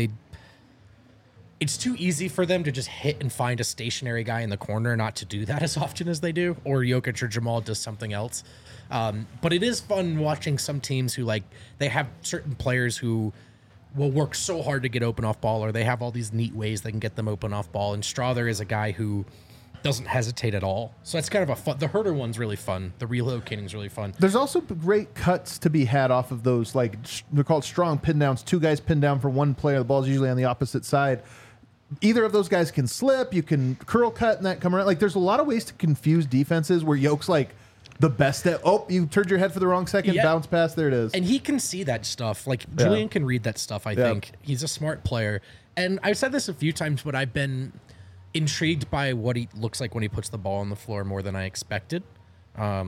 it's too easy for them to just hit and find a stationary guy in the corner, not to do that as often as they do. Or Jokic or Jamal does something else. But it is fun watching some teams who they have certain players who will work so hard to get open off ball, or they have all these neat ways they can get them open off ball. And Strother is a guy who doesn't hesitate at all. So that's kind of a fun. The Huerter one's really fun. The relocating is really fun. There's also great cuts to be had off of those, they're called strong pin downs. 2 guys pin down for 1 player. The ball's usually on the opposite side. Either of those guys can slip. You can curl cut and that come around. Like, there's a lot of ways to confuse defenses where Yoke's the best at, you turned your head for the wrong second, Yeah. bounce pass, there it is. And he can see that stuff. Julian can read that stuff, I think. He's a smart player. And I've said this a few times, but I've been intrigued by what he looks like when he puts the ball on the floor more than I expected. But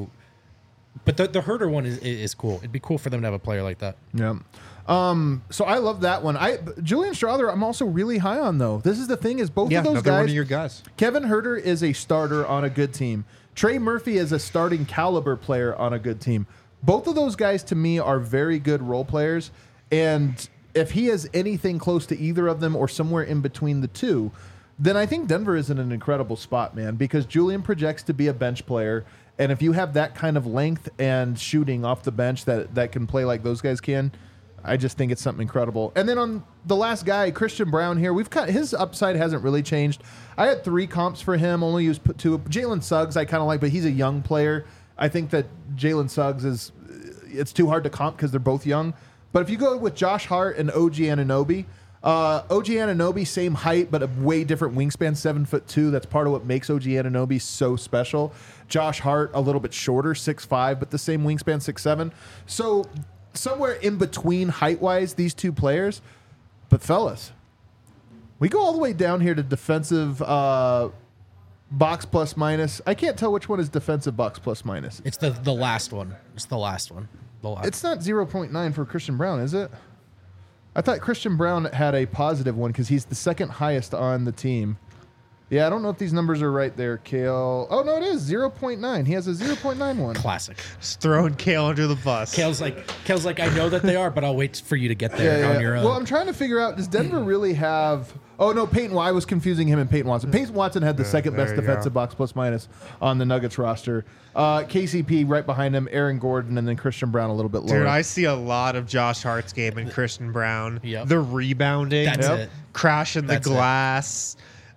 the Huerter one is cool. It'd be cool for them to have a player like that. Yeah. So I love that one. Julian Strother, I'm also really high on, though. This is the thing, is both of those another one guys. of your guys. Kevin Huerter is a starter on a good team. Trey Murphy is a starting caliber player on a good team. Both of those guys, to me, are very good role players. And if he has anything close to either of them or somewhere in between the two, then I think Denver is in an incredible spot, man, because Julian projects to be a bench player. And if you have that kind of length and shooting off the bench that can play like those guys can, I just think it's something incredible. And then on the last guy, Christian Brown here, his upside hasn't really changed. I had 3 comps for him, only used 2. Jalen Suggs I kind of like, but he's a young player. I think that Jalen Suggs it's too hard to comp because they're both young. But if you go with Josh Hart and OG Anunoby, OG Anunoby, same height, but a way different wingspan, 7'2". That's part of what makes OG Anunoby so special. Josh Hart, a little bit shorter, 6'5", but the same wingspan, 6'7". So somewhere in between height-wise, these two players. But fellas, we go all the way down here to defensive box plus minus. I can't tell which one is defensive box plus minus. It's the last one. It's the last one. It's not 0.9 for Christian Brown, is it? I thought Christian Brown had a positive one because he's the second highest on the team. Yeah, I don't know if these numbers are right there, Kale. Oh, no, it is 0.9. He has a 0.9 one. Classic. Just throwing Kale under the bus. Kale's like, I know that they are, but I'll wait for you to get there on your own. Well, I'm trying to figure out, does Denver really have... Oh, no, I was confusing him and Peyton Watson. Peyton Watson had the second best there you defensive box plus minus on the Nuggets roster. KCP right behind him, Aaron Gordon, and then Christian Brown a little bit lower. Dude, I see a lot of Josh Hart's game and Christian Brown. Yep. The rebounding. That's it. Crashing the That's it. glass.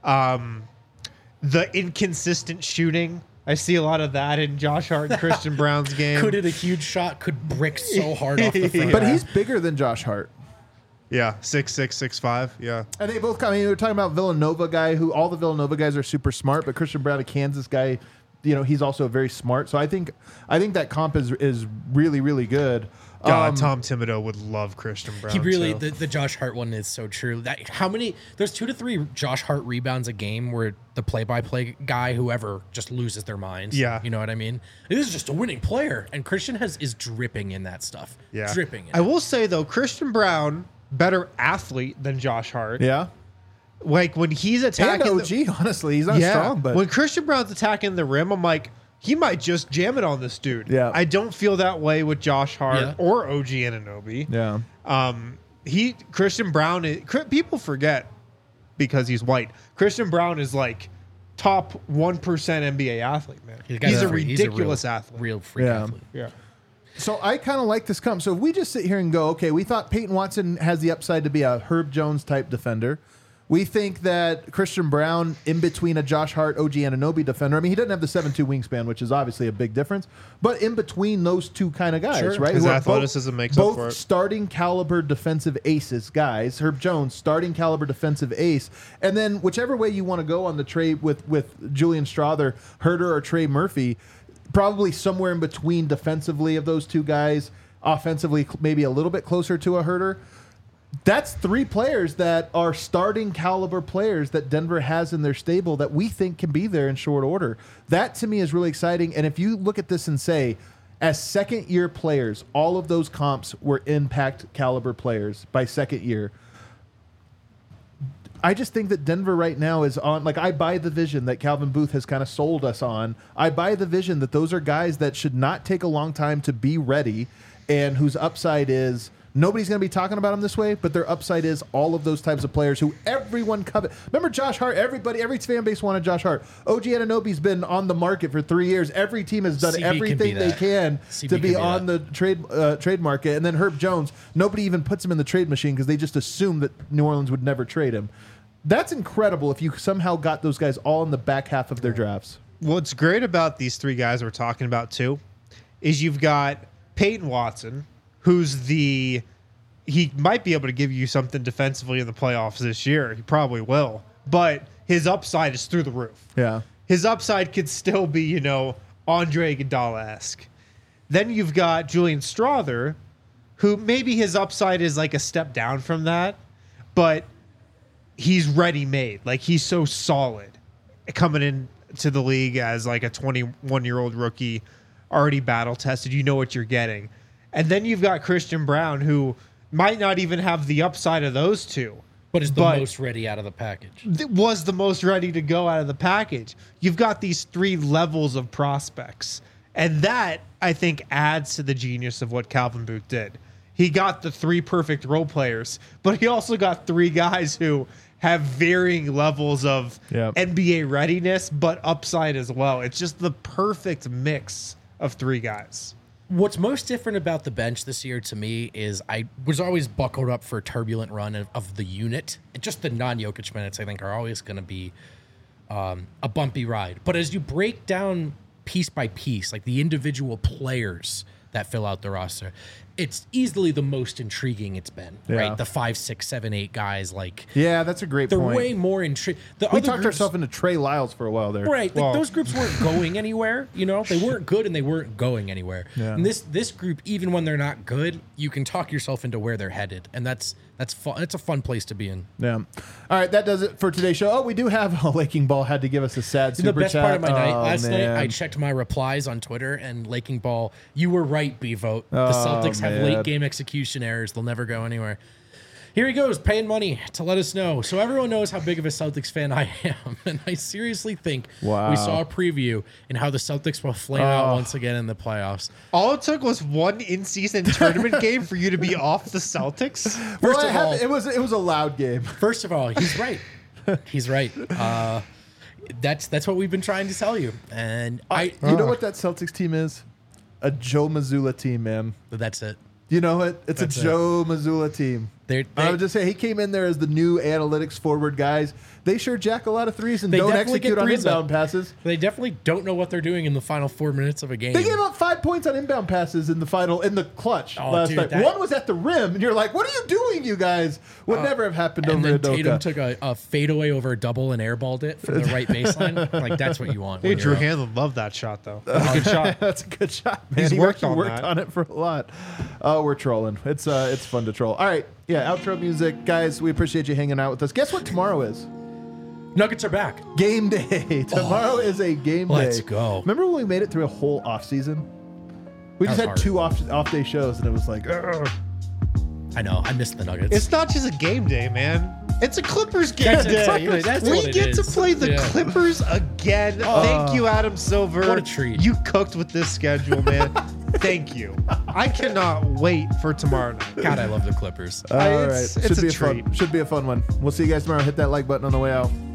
The inconsistent shooting. I see a lot of that in Josh Hart and Christian Brown's game. Could hit a huge shot, could brick so hard off the front. But he's bigger than Josh Hart. Yeah, 6'6", 6'5". Yeah. And they both come. We were talking about Villanova guy, who all the Villanova guys are super smart, but Christian Brown, a Kansas guy, he's also very smart. So I think that comp is really, really good. God, Tom Thibodeau would love Christian Brown. He really, too. the Josh Hart one is so true. There's 2 to 3 Josh Hart rebounds a game where the play-by-play guy, whoever, just loses their minds. Yeah. You know what I mean? This is just a winning player. And Christian is dripping in that stuff. Yeah. Dripping in I will say, though, Christian Brown, better athlete than Josh Hart. Yeah. Like, when he's And attacking... OG, honestly. He's not strong, but... when Christian Brown's attacking the rim, I'm like, he might just jam it on this dude. Yeah. I don't feel that way with Josh Hart Yeah. or OG Anunoby. Yeah. Christian Brown people forget because he's white. Christian Brown is like top 1% NBA athlete, man. He's a ridiculous athlete. Real freak Yeah. athlete. Yeah. So I kind of like this comp. So if we just sit here and go, okay, we thought Peyton Watson has the upside to be a Herb Jones type defender. We think that Christian Brown in between a Josh Hart, OG Anunoby defender. I mean, he doesn't have the 7'2" wingspan, which is obviously a big difference. But in between those two kind of guys, Sure. right? His who are athleticism makes up for both it. starting caliber defensive aces, guys. Herb Jones, starting caliber defensive ace. And then whichever way you want to go on the trade with Julian Strother, Herder, or Trey Murphy, probably somewhere in between defensively of those two guys, offensively maybe a little bit closer to a Herder. That's three players that are starting caliber players that Denver has in their stable that we think can be there in short order. That to me is really exciting. And if you look at this and say, as second year players, all of those comps were impact caliber players by second year. I just think that Denver right now is on, like, I buy the vision that Calvin Booth has kind of sold us on. I buy the vision that those are guys that should not take a long time to be ready and whose upside is, nobody's going to be talking about them this way, but their upside is all of those types of players who everyone covet. Remember Josh Hart? Every fan base wanted Josh Hart. OG Anunoby's been on the market for 3 years. Every team has done CB everything they can to be on that. the trade market. And then Herb Jones, nobody even puts him in the trade machine because they just assume that New Orleans would never trade him. That's incredible if you somehow got those guys all in the back half of their drafts. What's great about these three guys we're talking about too is you've got Peyton Watson, who's he might be able to give you something defensively in the playoffs this year. He probably will. But his upside is through the roof. Yeah. His upside could still be, Andre Iguodala-esque. Then you've got Julian Strother, who maybe his upside is like a step down from that, but he's ready-made. Like, he's so solid coming into the league as like a 21-year-old rookie, already battle-tested. You know what you're getting. And then you've got Christian Brown, who might not even have the upside of those two. But is the most ready out of the package. Was the most ready to go out of the package. You've got these three levels of prospects. And that, I think, adds to the genius of what Calvin Booth did. He got the three perfect role players, but he also got three guys who have varying levels of NBA readiness, but upside as well. It's just the perfect mix of three guys. What's most different about the bench this year to me is I was always buckled up for a turbulent run of the unit. Just the non-Jokic minutes, I think, are always going to be a bumpy ride. But as you break down piece by piece, like the individual players that fill out the roster, it's easily the most intriguing it's been, right? The 5, 6, 7, 8 guys, like, yeah, that's a great they're point. way more intriguing. We talked ourselves into Trey Lyles for a while there. Right. Like, those groups weren't going anywhere, They weren't good and they weren't going anywhere. Yeah. And this group, even when they're not good, you can talk yourself into where they're headed. And that's fun. It's a fun place to be in. Yeah. All right, that does it for today's show. Oh, we do have Laking Ball had to give us a sad super chat. The best part of my night last man. night, I checked my replies on Twitter, and Laking Ball, you were right, B-Vote. The Celtics have late game execution errors. They'll never go anywhere. Here he goes, paying money to let us know. So everyone knows how big of a Celtics fan I am. And I seriously think we saw a preview in how the Celtics will flame out once again in the playoffs. All it took was one in-season tournament game for you to be off the Celtics. First of all, it was a loud game. First of all, he's right. He's right. That's what we've been trying to tell you. And you know what that Celtics team is? A Joe Mazzulla team, man. That's it. You know what? It's a Joe Mazzulla team. I would just say he came in there as the new analytics forward guys. They sure jack a lot of threes and don't execute on inbound passes. They definitely don't know what they're doing in the final 4 minutes of a game. They gave up 5 points on inbound passes in the clutch last night. That, one was at the rim, and you're like, "What are you doing, you guys?" Would never have happened over and then Udoka. Tatum took a fadeaway over a double and airballed it from the right baseline. Like, that's what you want. Hey, Drew Hanlon loved that shot, though. That's a good shot. That's a good shot, man. He's He worked actually on that. on it for a lot. Oh, we're trolling. It's fun to troll. All right, yeah. Outro music, guys. We appreciate you hanging out with us. Guess what tomorrow is? Nuggets are back. Game day. Tomorrow is a game day. Let's go. Remember when we made it through a whole off season? We just That had was 2 off day shows, and it was like, ugh. I know. I missed the Nuggets. It's not just a game day, man. It's a Clippers game That's day. exactly- that's we what it get to is. play the Yeah. Clippers again. Thank you, Adam Silver. What a treat. You cooked with this schedule, man. Thank you. I cannot wait for tomorrow night. God, I love the Clippers. All right. It's a treat. Should be a fun one. We'll see you guys tomorrow. Hit that like button on the way out.